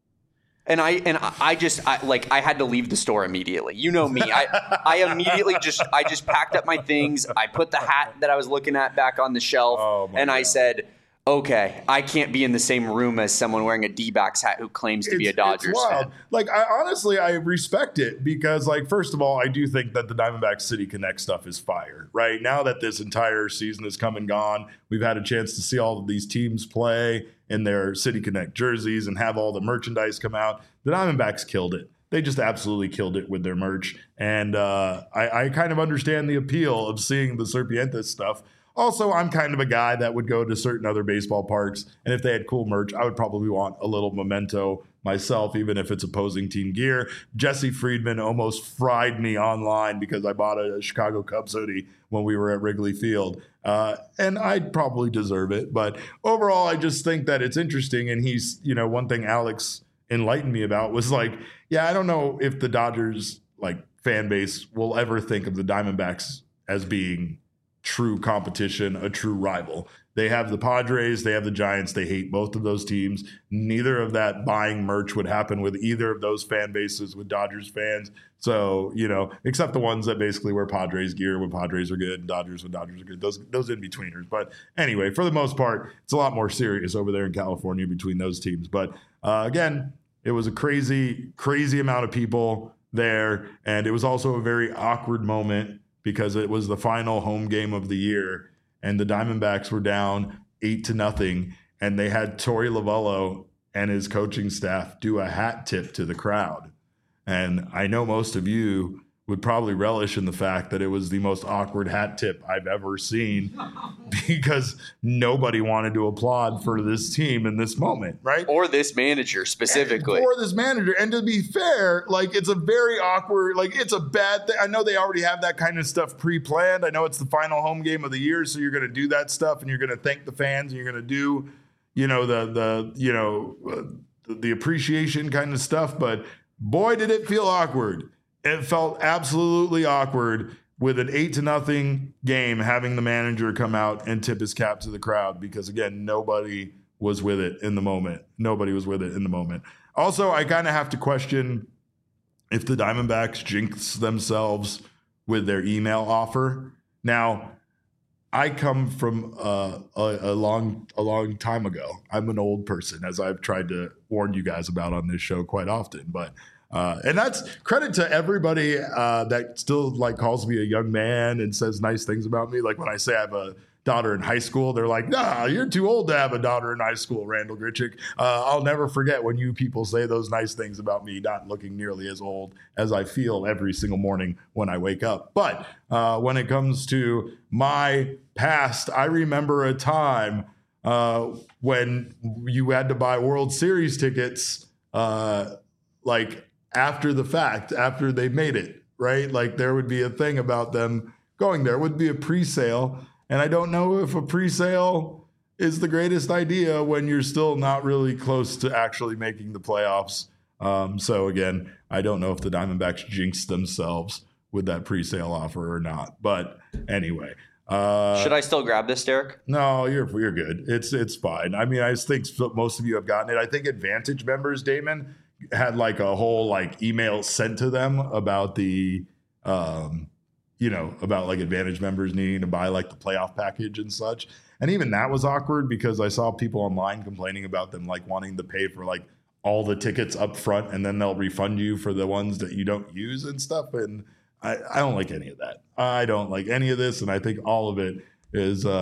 and I, and I just, I, like, I had to leave the store immediately. You know me. I, I immediately just, I just packed up my things. I put the hat that I was looking at back on the shelf. Oh, and God. I said, okay, I can't be in the same room as someone wearing a D-backs hat who claims to it's, be a Dodgers fan. Like, I honestly, I respect it because, like, first of all, I do think that the Diamondback City Connect stuff is fire, right? Now that this entire season has come and gone, we've had a chance to see all of these teams play in their City Connect jerseys and have all the merchandise come out. The Diamondbacks killed it. They just absolutely killed it with their merch. And uh, I, I kind of understand the appeal of seeing the Serpientes stuff. Also, I'm kind of a guy that would go to certain other baseball parks, and if they had cool merch, I would probably want a little memento myself, even if it's opposing team gear. Jesse Friedman almost fried me online because I bought a Chicago Cubs hoodie when we were at Wrigley Field, uh, and I'd probably deserve it. But overall, I just think that it's interesting, and he's, you know, one thing Alex enlightened me about was like, yeah, I don't know if the Dodgers, like, fan base will ever think of the Diamondbacks as being true competition, a true rival. They have the Padres, they have the Giants, they hate both of those teams. Neither of that buying merch would happen with either of those fan bases with Dodgers fans. So, you know, except the ones that basically wear Padres gear when Padres are good and Dodgers when Dodgers are good, those those in-betweeners. But anyway, for the most part, it's a lot more serious over there in California between those teams. But uh, again, it was a crazy, crazy amount of people there. And it was also a very awkward moment because it was the final home game of the year and the Diamondbacks were down eight to nothing. And they had Torey Lovullo and his coaching staff do a hat tip to the crowd. And I know most of you would probably relish in the fact that it was the most awkward hat tip I've ever seen because nobody wanted to applaud for this team in this moment, right? Or this manager specifically. And, or this manager. And to be fair, like, it's a very awkward, like, it's a bad thing. I know they already have that kind of stuff pre-planned. I know it's the final home game of the year, so you're going to do that stuff and you're going to thank the fans and you're going to do, you know, the, the you know, uh, the, the appreciation kind of stuff. But boy, did it feel awkward. It felt absolutely awkward with an eight to nothing game having the manager come out and tip his cap to the crowd because, again, nobody was with it in the moment. Nobody was with it in the moment. Also, I kind of have to question if the Diamondbacks jinx themselves with their email offer. Now, I come from uh, a, a long a long time ago. I'm an old person, as I've tried to warn you guys about on this show quite often, but Uh, and that's credit to everybody uh, that still like calls me a young man and says nice things about me. Like when I say I have a daughter in high school, they're like, nah, you're too old to have a daughter in high school, Randall Grichuk. Uh, I'll never forget when you people say those nice things about me, not looking nearly as old as I feel every single morning when I wake up. But uh, when it comes to my past, I remember a time uh, when you had to buy World Series tickets uh, like after the fact, after they made it, right? Like there would be a thing about them going there. It would be a pre-sale. And I don't know if a pre-sale is the greatest idea when you're still not really close to actually making the playoffs. Um, so again, I don't know if the Diamondbacks jinxed themselves with that pre-sale offer or not. But anyway. Uh, Should I still grab this, Derek? No, you're you're good. It's it's fine. I mean, I think most of you have gotten it. I think Advantage members, Damon, had like a whole like email sent to them about the, um, you know, about like Advantage members needing to buy like the playoff package and such. And even that was awkward because I saw people online complaining about them like wanting to pay for like all the tickets up front and then they'll refund you for the ones that you don't use and stuff. And I, I don't like any of that. I don't like any of this. And I think all of it is uh,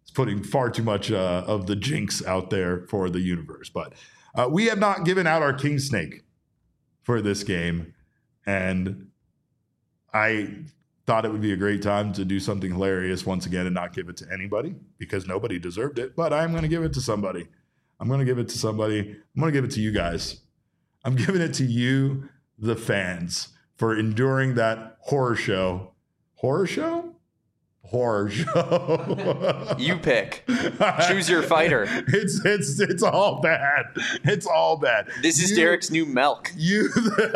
It's putting far too much uh, of the jinx out there for the universe. But uh, we have not given out our King Snake for this game. And I thought it would be a great time to do something hilarious once again and not give it to anybody because nobody deserved it. But I'm going to give it to somebody. I'm going to give it to somebody. I'm going to give it to you guys. I'm giving it to you, the fans, for enduring that horror show. Horror show? Horror show. You pick. Choose your fighter. It's it's it's all bad. It's all bad. This is you, Derek's new milk. You.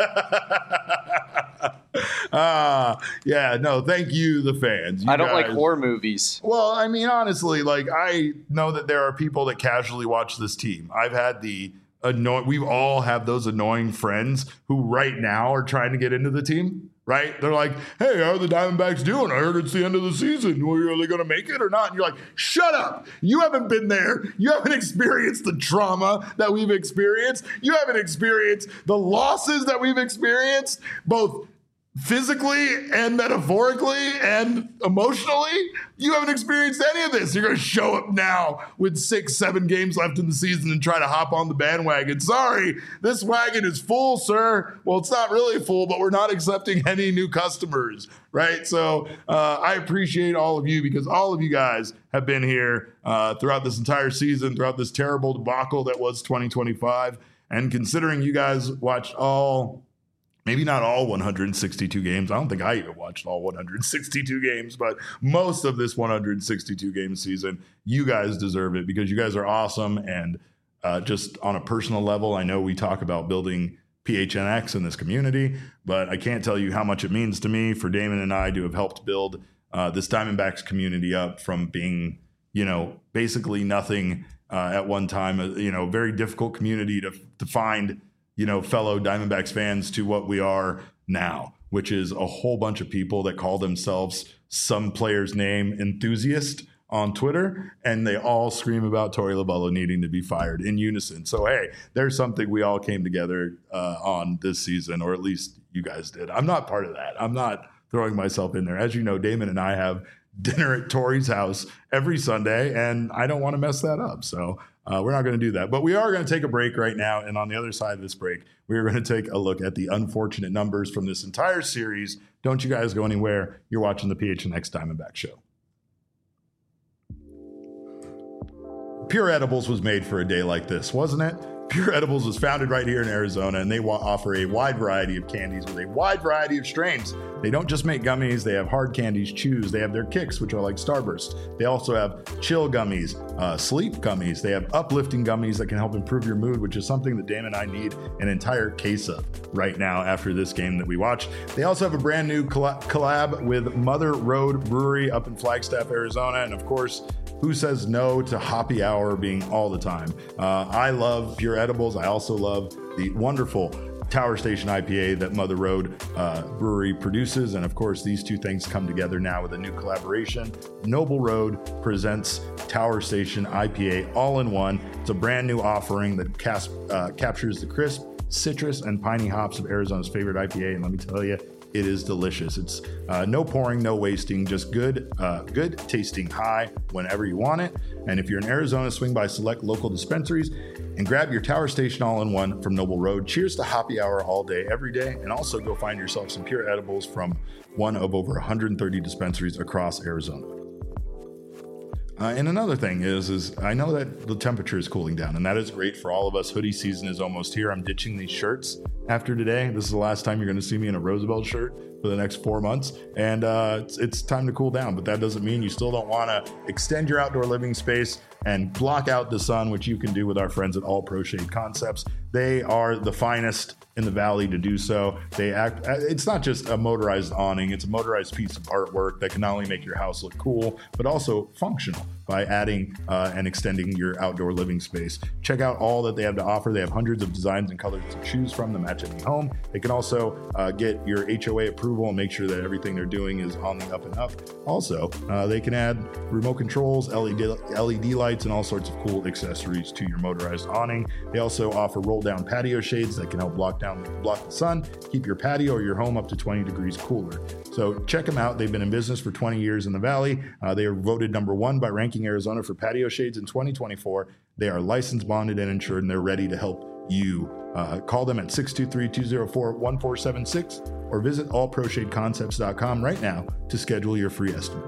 Ah, uh, yeah, no, thank you, the fans. You I don't guys. like horror movies. Well, I mean, honestly, like, I know that there are people that casually watch this team. I've had the annoying, we all have those annoying friends who right now are trying to get into the team, right? They're like, hey, how are the Diamondbacks doing? I heard it's the end of the season. Are they going to make it or not? And you're like, shut up. You haven't been there. You haven't experienced the trauma that we've experienced. You haven't experienced the losses that we've experienced, both physically and metaphorically and emotionally. You haven't experienced any of this. You're going to show up now with six, seven games left in the season and try to hop on the bandwagon. Sorry, this wagon is full, sir. Well, it's not really full, but we're not accepting any new customers, right? So uh, I appreciate all of you because all of you guys have been here uh, throughout this entire season, throughout this terrible debacle that was twenty twenty-five. And considering you guys watched all maybe not all one hundred sixty-two games. I don't think I even watched all one hundred sixty-two games, but most of this one hundred sixty-two game season, you guys deserve it because you guys are awesome. And uh, just on a personal level, I know we talk about building P H N X in this community, but I can't tell you how much it means to me for Damon and I to have helped build uh, this Diamondbacks community up from being, you know, basically nothing uh, at one time, uh, you know, very difficult community to, to find, you know, fellow Diamondbacks fans to what we are now, which is a whole bunch of people that call themselves some player's name enthusiast on Twitter, and they all scream about Torey Lovullo needing to be fired in unison. So, hey, there's something we all came together uh, on this season, or at least you guys did. I'm not part of that. I'm not throwing myself in there. As you know, Damon and I have dinner at Torey's house every Sunday, and I don't want to mess that up. So Uh, we're not going to do that, but we are going to take a break right now. And on the other side of this break, we are going to take a look at the unfortunate numbers from this entire series. Don't you guys go anywhere. You're watching the P H N X Diamondback Show. Pure Edibles was made for a day like this, wasn't it? Pure Edibles was founded right here in Arizona, and they wa- offer a wide variety of candies with a wide variety of strains. They don't just make gummies. They have hard candies, chews. They have their kicks, which are like Starburst. They also have chill gummies, uh, sleep gummies. They have uplifting gummies that can help improve your mood, which is something that Damon and I need an entire case of right now after this game that we watched. They also have a brand new coll- collab with Mother Road Brewery up in Flagstaff, Arizona. And of course, who says no to happy hour being all the time? Uh, I love Pure Edibles. I also love the wonderful Tower Station I P A that Mother Road uh, Brewery produces. And of course, these two things come together now with a new collaboration. Noble Road presents Tower Station I P A all in one. It's a brand new offering that cas- uh, captures the crisp, citrus, and piney hops of Arizona's favorite I P A. And let me tell you, it is delicious. It's uh, no pouring, no wasting, just good, uh, good tasting high whenever you want it. And if you're in Arizona, swing by select local dispensaries and grab your Tower Station all-in-one from Noble Road. Cheers to happy hour all day, every day. And also go find yourself some Pure Edibles from one of over one hundred thirty dispensaries across Arizona. Uh, and another thing is, is I know that the temperature is cooling down, and that is great for all of us. Hoodie season is almost here. I'm ditching these shirts after today. This is the last time you're going to see me in a Roosevelt shirt for the next four months. And uh, it's, it's time to cool down, but that doesn't mean you still don't want to extend your outdoor living space and block out the sun, which you can do with our friends at All Pro Shade Concepts. They are the finest in the valley to do so. They act, it's not just a motorized awning, it's a motorized piece of artwork that can not only make your house look cool, but also functional by adding uh, and extending your outdoor living space. Check out all that they have to offer. They have hundreds of designs and colors to choose from to match any home. They can also uh, get your H O A approval and make sure that everything they're doing is on the up and up. Also, uh, they can add remote controls, L E D, L E D lights, and all sorts of cool accessories to your motorized awning. They also offer roll-down patio shades that can help block down block the sun, keep your patio or your home up to twenty degrees cooler. So check them out. They've been in business for twenty years in the Valley. Uh, they are voted number one by Ranking Arizona for patio shades in twenty twenty-four. They are licensed, bonded, and insured, and they're ready to help you. Uh, call them at six two three, two zero four, one four seven six or visit all pro shade concepts dot com right now to schedule your free estimate.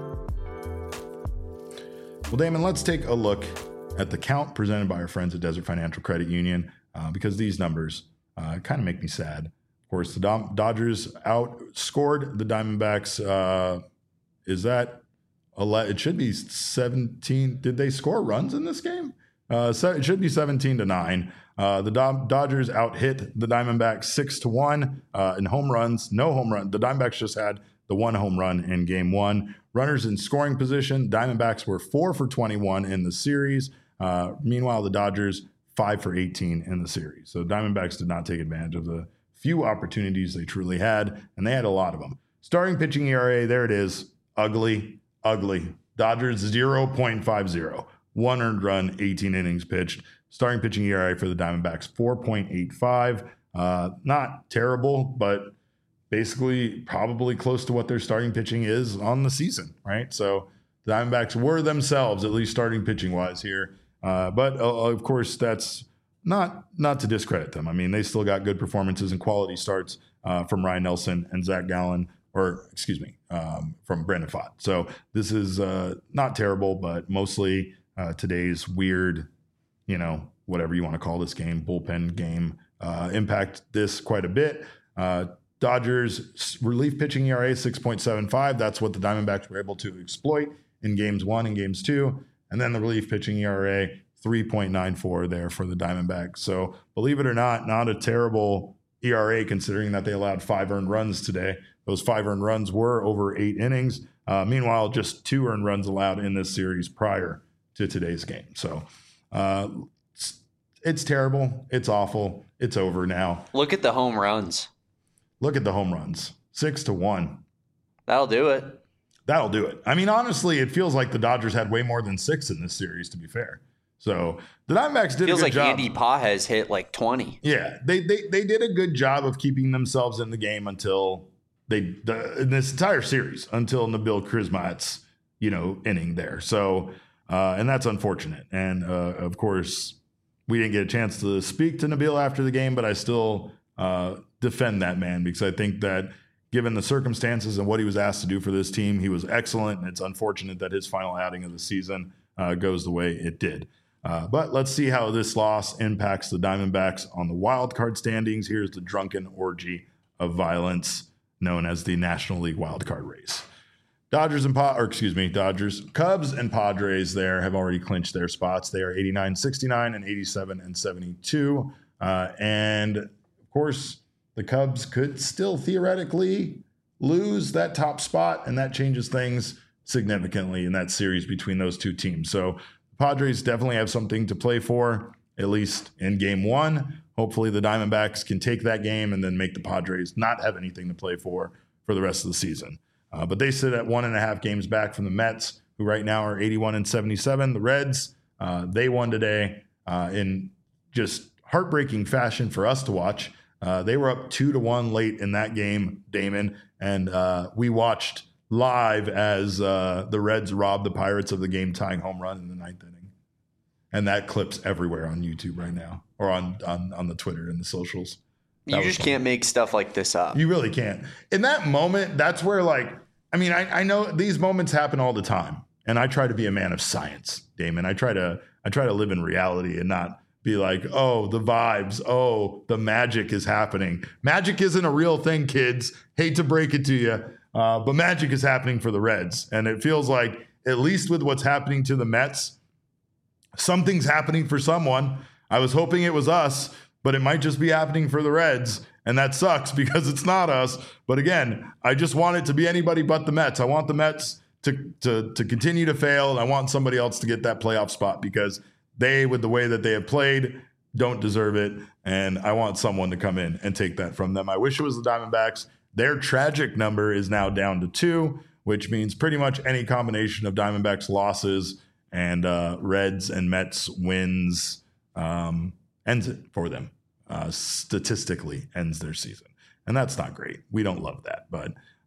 Well, Damon, let's take a look at the count presented by our friends at Desert Financial Credit Union uh, because these numbers uh, kind of make me sad. Of course, the Dom- Dodgers outscored the Diamondbacks. Uh, is that ele- it should be seventeen? Did they score runs in this game? Uh, so it should be seventeen to nine. Uh, the Do- Dodgers out hit the Diamondbacks six to one uh, in home runs. No home run. The Diamondbacks just had the one home run in game one. Runners in scoring position. Diamondbacks were four for twenty-one in the series. Uh, meanwhile, the Dodgers five for eighteen in the series. So Diamondbacks did not take advantage of the few opportunities they truly had, and they had a lot of them. Starting pitching E R A, there it is. Ugly, ugly. Dodgers zero point five zero. One earned run, eighteen innings pitched. Starting pitching E R A for the Diamondbacks, four point eight five. Uh, not terrible, but basically probably close to what their starting pitching is on the season, right? So the Diamondbacks were themselves, at least starting pitching-wise here. Uh, but, uh, of course, that's not not to discredit them. I mean, they still got good performances and quality starts uh, from Ryan Nelson and Zach Gallen, or excuse me, um, from Brandon Pfaadt. So this is uh, not terrible, but mostly uh, today's weird, you know, whatever you want to call this game, bullpen game, uh, impact this quite a bit. Uh, Dodgers relief pitching E R A six point seven five. That's what the Diamondbacks were able to exploit in games one and games two. And then the relief pitching E R A three point nine four there for the Diamondbacks. So believe it or not, not a terrible E R A considering that they allowed five earned runs today. Those five earned runs were over eight innings. Uh, meanwhile, just two earned runs allowed in this series prior to today's game. So uh, it's, it's terrible. It's awful. It's over now. Look at the home runs. Look at the home runs. Six to one. That'll do it. That'll do it. I mean, honestly, it feels like the Dodgers had way more than six in this series, to be fair. So the Diamondbacks did Feels a good like job. Andy Pages hit like twenty. Yeah, they, they they did a good job of keeping themselves in the game until they the, in this entire series until Nabil Krizmat's you know inning there. So uh, and that's unfortunate. And uh, of course, we didn't get a chance to speak to Nabil after the game, but I still uh, defend that man because I think that given the circumstances and what he was asked to do for this team, he was excellent. And it's unfortunate that his final outing of the season uh, goes the way it did. Uh, but let's see how this loss impacts the Diamondbacks on the wild card standings. Here's the drunken orgy of violence known as the National League wild card race. Dodgers and pa- or excuse me, Dodgers, Cubs and Padres there have already clinched their spots. They are eighty-nine sixty-nine and eighty-seven and seventy-two. Uh, and of course, the Cubs could still theoretically lose that top spot, and that changes things significantly in that series between those two teams. So Padres definitely have something to play for, at least in game one. Hopefully the Diamondbacks can take that game and then make the Padres not have anything to play for for the rest of the season. Uh, but they sit at one and a half games back from the Mets, who right now are eighty-one and seventy-seven. The Reds, uh, they won today uh, in just heartbreaking fashion for us to watch. Uh, they were up two to one late in that game, Damon, and uh, we watched live as uh, the Reds robbed the Pirates of the game-tying home run in the ninth inning. And that clip's everywhere on YouTube right now, or on on, on the Twitter and the socials. That you just fun. can't make stuff like this up. You really can't. In that moment, that's where, like, I mean, I, I know these moments happen all the time, and I try to be a man of science, Damon. I try to I try to live in reality and not be like, oh, the vibes, oh, the magic is happening. Magic isn't a real thing, kids. Hate to break it to you, uh, but magic is happening for the Reds. And it feels like, at least with what's happening to the Mets, something's happening for someone. I was hoping it was us, but it might just be happening for the Reds. And that sucks because it's not us. But again, I just want it to be anybody but the Mets. I want the Mets to, to, to continue to fail. And I want somebody else to get that playoff spot because they, with the way that they have played, don't deserve it. And I want someone to come in and take that from them. I wish it was the Diamondbacks. Their tragic number is now down to two, which means pretty much any combination of Diamondbacks losses and uh, Reds and Mets wins um, ends it for them. Uh, statistically ends their season. And that's not great. We don't love that. But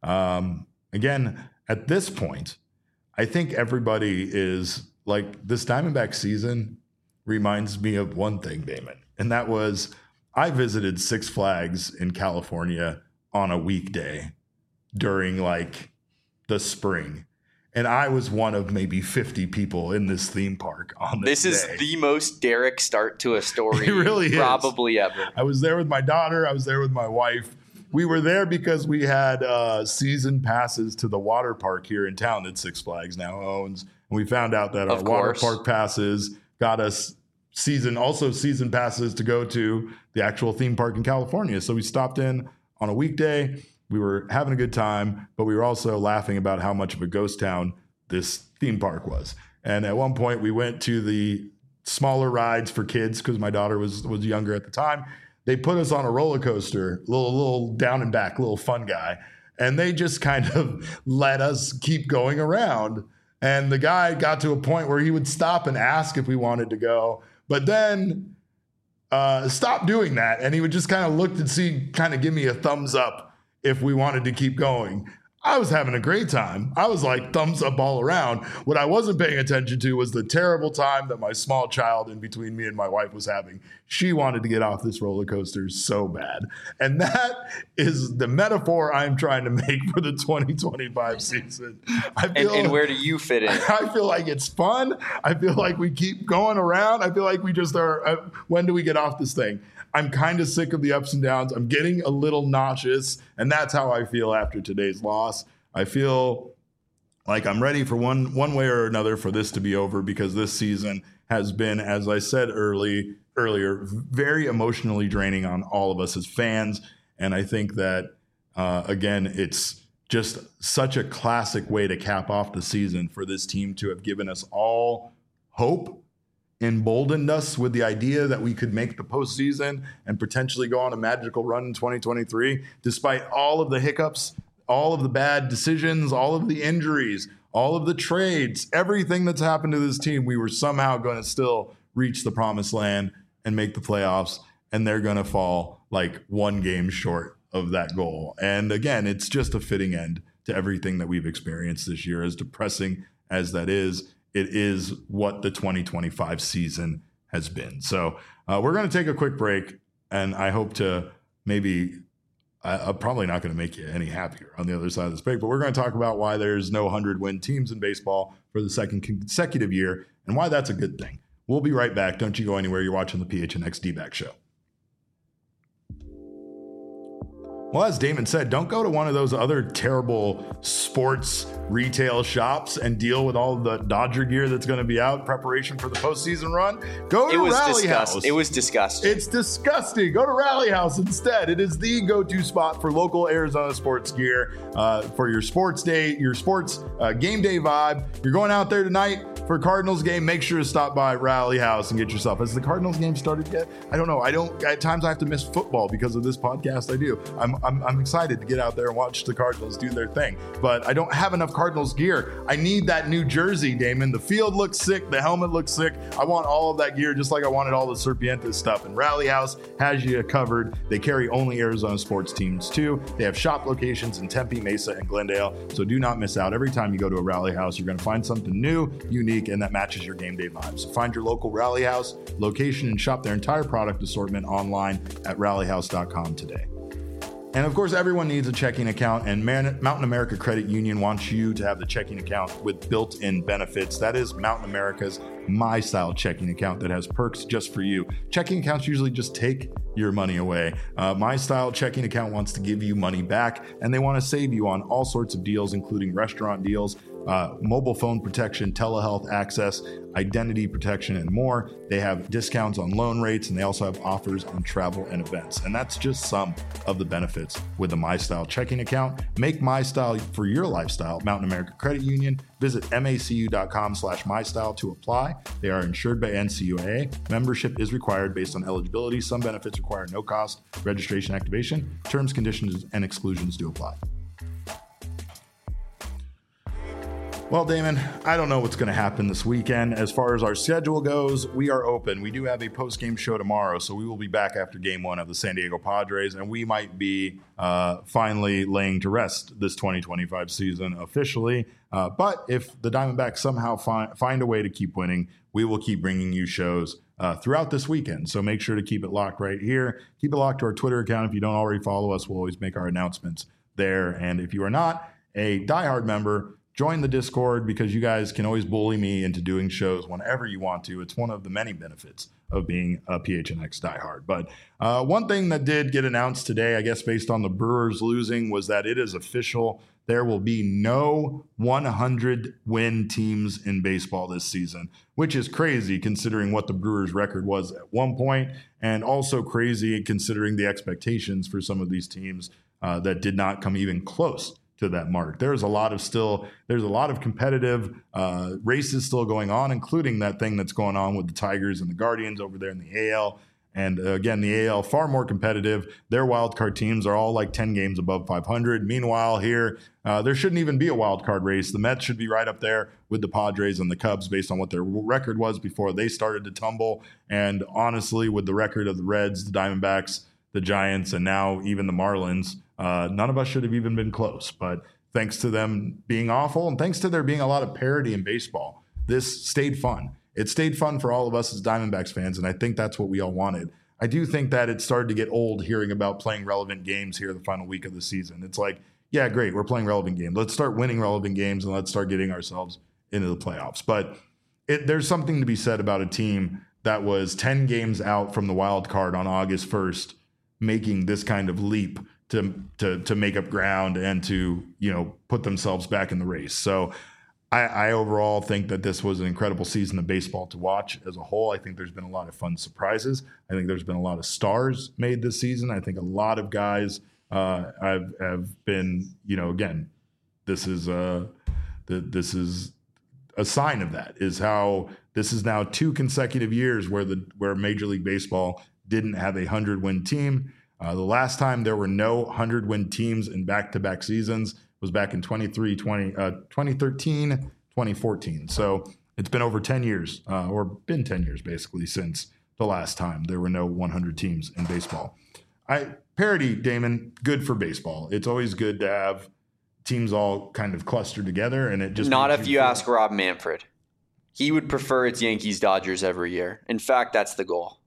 Um, again, at this point, I think everybody is like, this Diamondback season reminds me of one thing, Damon, and that was I visited Six Flags in California on a weekday during like the spring. And I was one of maybe fifty people in this theme park on this This day. is the most Derek start to a story It really probably is. ever. I was there with my daughter. I was there with my wife. We were there because we had uh, season passes to the water park here in town that Six Flags now owns. And we found out that our Of water course. park passes got us season, also season passes to go to the actual theme park in California. So we stopped in on a weekday. We were having a good time, but we were also laughing about how much of a ghost town this theme park was. And at one point we went to the smaller rides for kids because my daughter was was younger at the time. They put us on a roller coaster, little little down and back, little fun guy. And they just kind of let us keep going around. And the guy got to a point where he would stop and ask if we wanted to go, but then uh, stop doing that. And he would just kind of look and see, kind of give me a thumbs up if we wanted to keep going. I was having a great time. I was like thumbs up all around. What I wasn't paying attention to was the terrible time that my small child in between me and my wife was having. She wanted to get off this roller coaster so bad. And that is the metaphor I'm trying to make for the twenty twenty-five season. I feel, And, and where do you fit in? I feel like it's fun. I feel like we keep going around. I feel like we just are, uh, when do we get off this thing? I'm kind of sick of the ups and downs. I'm getting a little nauseous, and that's how I feel after today's loss. I feel like I'm ready for one one way or another for this to be over, because this season has been, as I said early earlier, very emotionally draining on all of us as fans. And I think that, uh, again, it's just such a classic way to cap off the season for this team to have given us all hope, emboldened us with the idea that we could make the postseason and potentially go on a magical run in twenty twenty-three, despite all of the hiccups, all of the bad decisions, all of the injuries, all of the trades, everything that's happened to this team. We were somehow going to still reach the promised land and make the playoffs, and they're going to fall like one game short of that goal. And again, it's just a fitting end to everything that we've experienced this year, as depressing as that is. It is what the twenty twenty-five season has been. So uh, we're going to take a quick break, and I hope to maybe, I, I'm probably not going to make you any happier on the other side of this break, but we're going to talk about why there's no one hundred win teams in baseball for the second consecutive year and why that's a good thing. We'll be right back. Don't you go anywhere. You're watching the P H N X D-Back Show. Well, as Damon said, don't go to one of those other terrible sports retail shops and deal with all the Dodger gear that's going to be out in preparation for the postseason run. Go to It was Rally disgust- House. It was disgusting. It's disgusting. Go to Rally House instead. It is the go-to spot for local Arizona sports gear, uh, for your sports day, your sports uh, game day vibe. You're going out there tonight for a Cardinals game. Make sure to stop by Rally House and get yourself. Has the Cardinals game started yet? I don't know. I don't. At times I have to miss football because of this podcast. I do. I'm I'm, I'm excited to get out there and watch the Cardinals do their thing, but I don't have enough Cardinals gear. I need that new jersey, Damon. The field looks sick. The helmet looks sick. I want all of that gear, just like I wanted all the Serpientes stuff. And Rally House has you covered. They carry only Arizona sports teams too. They have shop locations in Tempe, Mesa, and Glendale. So do not miss out. Every time you go to a Rally House, you're going to find something new, unique, and that matches your game day vibe. So find your local Rally House location and shop their entire product assortment online at rally house dot com today. And of course, everyone needs a checking account, and Man- Mountain America Credit Union wants you to have the checking account with built-in benefits. That is Mountain America's My Style checking account that has perks just for you. Checking accounts usually just take your money away. Uh, My Style checking account wants to give you money back, and they want to save you on all sorts of deals, including restaurant deals, Uh, mobile phone protection, telehealth access, identity protection, and more. They have discounts on loan rates, and they also have offers on travel and events. And that's just some of the benefits with the MyStyle checking account. Make MyStyle for your lifestyle. Mountain America Credit Union. Visit macu.com slash MyStyle to apply. They are insured by N C U A A. Membership is required based on eligibility. Some benefits require no cost registration activation. Terms, conditions, and exclusions do apply. Well, Damon, I don't know what's going to happen this weekend. As far as our schedule goes, we are open. We do have a post-game show tomorrow, so we will be back after game one of the San Diego Padres, and we might be uh, finally laying to rest this twenty twenty-five season officially. Uh, but if the Diamondbacks somehow fi- find a way to keep winning, we will keep bringing you shows uh, throughout this weekend. So make sure to keep it locked right here. Keep it locked to our Twitter account. If you don't already follow us, we'll always make our announcements there. And if you are not a diehard member, join the Discord, because you guys can always bully me into doing shows whenever you want to. It's one of the many benefits of being a P H N X diehard. But uh, one thing that did get announced today, I guess based on the Brewers losing, was that it is official. There will be no one hundred win teams in baseball this season, which is crazy considering what the Brewers record was at one point, and also crazy considering the expectations for some of these teams uh, that did not come even close to that mark. There's a lot of still, there's a lot of competitive uh, races still going on, including that thing that's going on with the Tigers and the Guardians over there in the A L. And uh, again, the A L far more competitive. Their wildcard teams are all like ten games above five hundred. Meanwhile, here, uh, there shouldn't even be a wildcard race. The Mets should be right up there with the Padres and the Cubs based on what their record was before they started to tumble. And honestly, with the record of the Reds, the Diamondbacks, the Giants, and now even the Marlins, Uh, none of us should have even been close, but thanks to them being awful and thanks to there being a lot of parity in baseball, this stayed fun. It stayed fun for all of us as Diamondbacks fans, and I think that's what we all wanted. I do think that it started to get old hearing about playing relevant games here the final week of the season. It's like, yeah, great, we're playing relevant games. Let's start winning relevant games and let's start getting ourselves into the playoffs. But it, there's something to be said about a team that was ten games out from the wild card on August first, making this kind of leap to to to make up ground and to, you know, put themselves back in the race. So I, I overall think that this was an incredible season of baseball to watch as a whole. I think there's been a lot of fun surprises. I think there's been a lot of stars made this season. I think a lot of guys uh, have have been, you know, again, this is a the, this is a sign of that, is how this is now two consecutive years where the where Major League Baseball didn't have a hundred win team. Uh, the last time there were no hundred-win teams in back-to-back seasons was back in twenty-three, twenty, uh, twenty thirteen, twenty fourteen. So it's been over ten years, uh, or been ten years basically, since the last time there were no one hundred teams in baseball. I parity, Damon, good for baseball. It's always good to have teams all kind of clustered together, and it just not if you, you ask Rob Manfred. He would prefer it's Yankees Dodgers every year. In fact, that's the goal.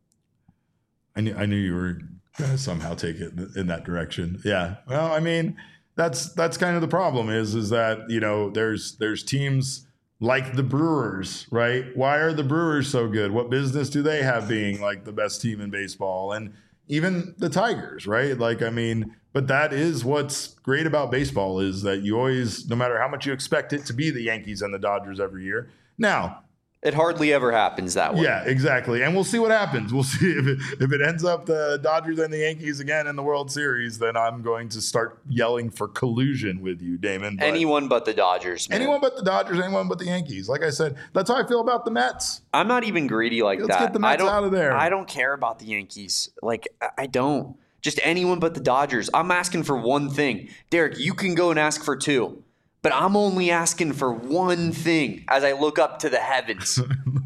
I knew, I knew you were going to somehow take it in that direction. Yeah. Well, I mean, that's that's kind of the problem is is that, you know, there's there's teams like the Brewers, right? Why are the Brewers so good? What business do they have being like the best team in baseball? And even the Tigers, right? Like, I mean, but that is what's great about baseball, is that you always, no matter how much you expect it to be the Yankees and the Dodgers every year. Now, it hardly ever happens that way. Yeah, exactly. And we'll see what happens. We'll see if it, if it ends up the Dodgers and the Yankees again in the World Series, then I'm going to start yelling for collusion with you, Damon. But anyone but the Dodgers, man. Anyone but the Dodgers, anyone but the Yankees. Like I said, that's how I feel about the Mets. I'm not even greedy like Let's that. Let's get the Mets I don't, out of there. I don't care about the Yankees. Like, I don't. Just anyone but the Dodgers. I'm asking for one thing. Derek, you can go and ask for two. But I'm only asking for one thing as I look up to the heavens.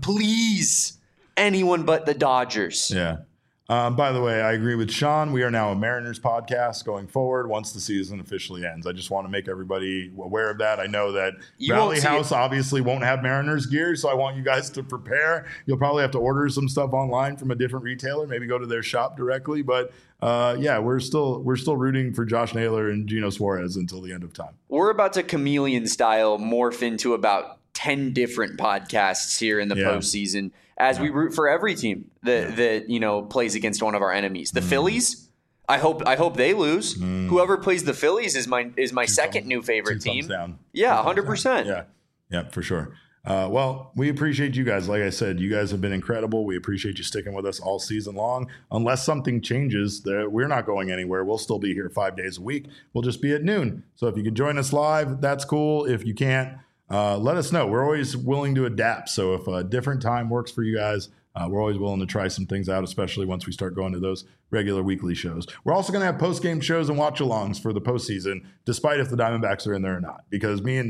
Please, anyone but the Dodgers. Yeah. Um, by the way, I agree with Sean. We are now a Mariners podcast going forward once the season officially ends. I just want to make everybody aware of that. I know that You Valley won't see House it. obviously won't have Mariners gear, so I want you guys to prepare. You'll probably have to order some stuff online from a different retailer, maybe go to their shop directly. But uh, yeah, we're still we're still rooting for Josh Naylor and Geno Suarez until the end of time. We're about to chameleon style morph into about ten different podcasts here in the Yeah. postseason as we root for every team that Yeah. that you know plays against one of our enemies. The Phillies. I hope I hope they lose. Whoever plays the Phillies is my is my Two second thumbs- new favorite two thumbs team. down. Yeah, Two one hundred thumbs down. percent. Yeah, yeah, for sure. Uh, well, we appreciate you guys. Like I said, you guys have been incredible. We appreciate you sticking with us all season long. Unless something changes, that we're not going anywhere. We'll still be here five days a week. We'll just be at noon. So if you can join us live, that's cool. If you can't, uh, let us know. We're always willing to adapt. So if a different time works for you guys, uh, we're always willing to try some things out, especially once we start going to those regular weekly shows. We're also going to have post-game shows and watch-alongs for the postseason, despite if the Diamondbacks are in there or not, because me and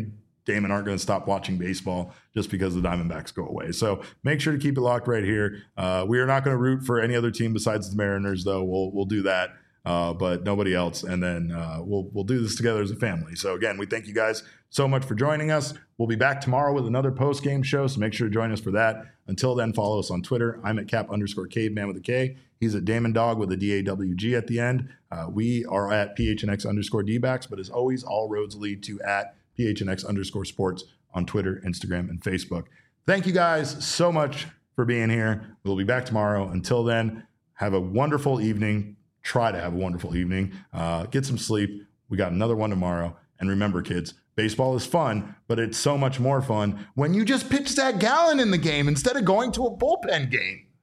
Damon aren't going to stop watching baseball just because the Diamondbacks go away. So make sure to keep it locked right here. Uh, we are not going to root for any other team besides the Mariners, though. We'll we'll do that, uh, but nobody else. And then uh, we'll we'll do this together as a family. So again, we thank you guys so much for joining us. We'll be back tomorrow with another post game show, so make sure to join us for that. Until then, follow us on Twitter. I'm at cap underscore caveman with a K. He's at Damon Dog with a D A W G at the end. Uh, we are at P H N X underscore D-backs, but as always, all roads lead to at P H N X underscore sports on Twitter, Instagram, and Facebook. Thank you guys so much for being here. We'll be back tomorrow. Until then, have a wonderful evening. Try to have a wonderful evening. Uh, get some sleep. We got another one tomorrow. And remember, kids, baseball is fun, but it's so much more fun when you just pitch Zach Gallen in the game instead of going to a bullpen game.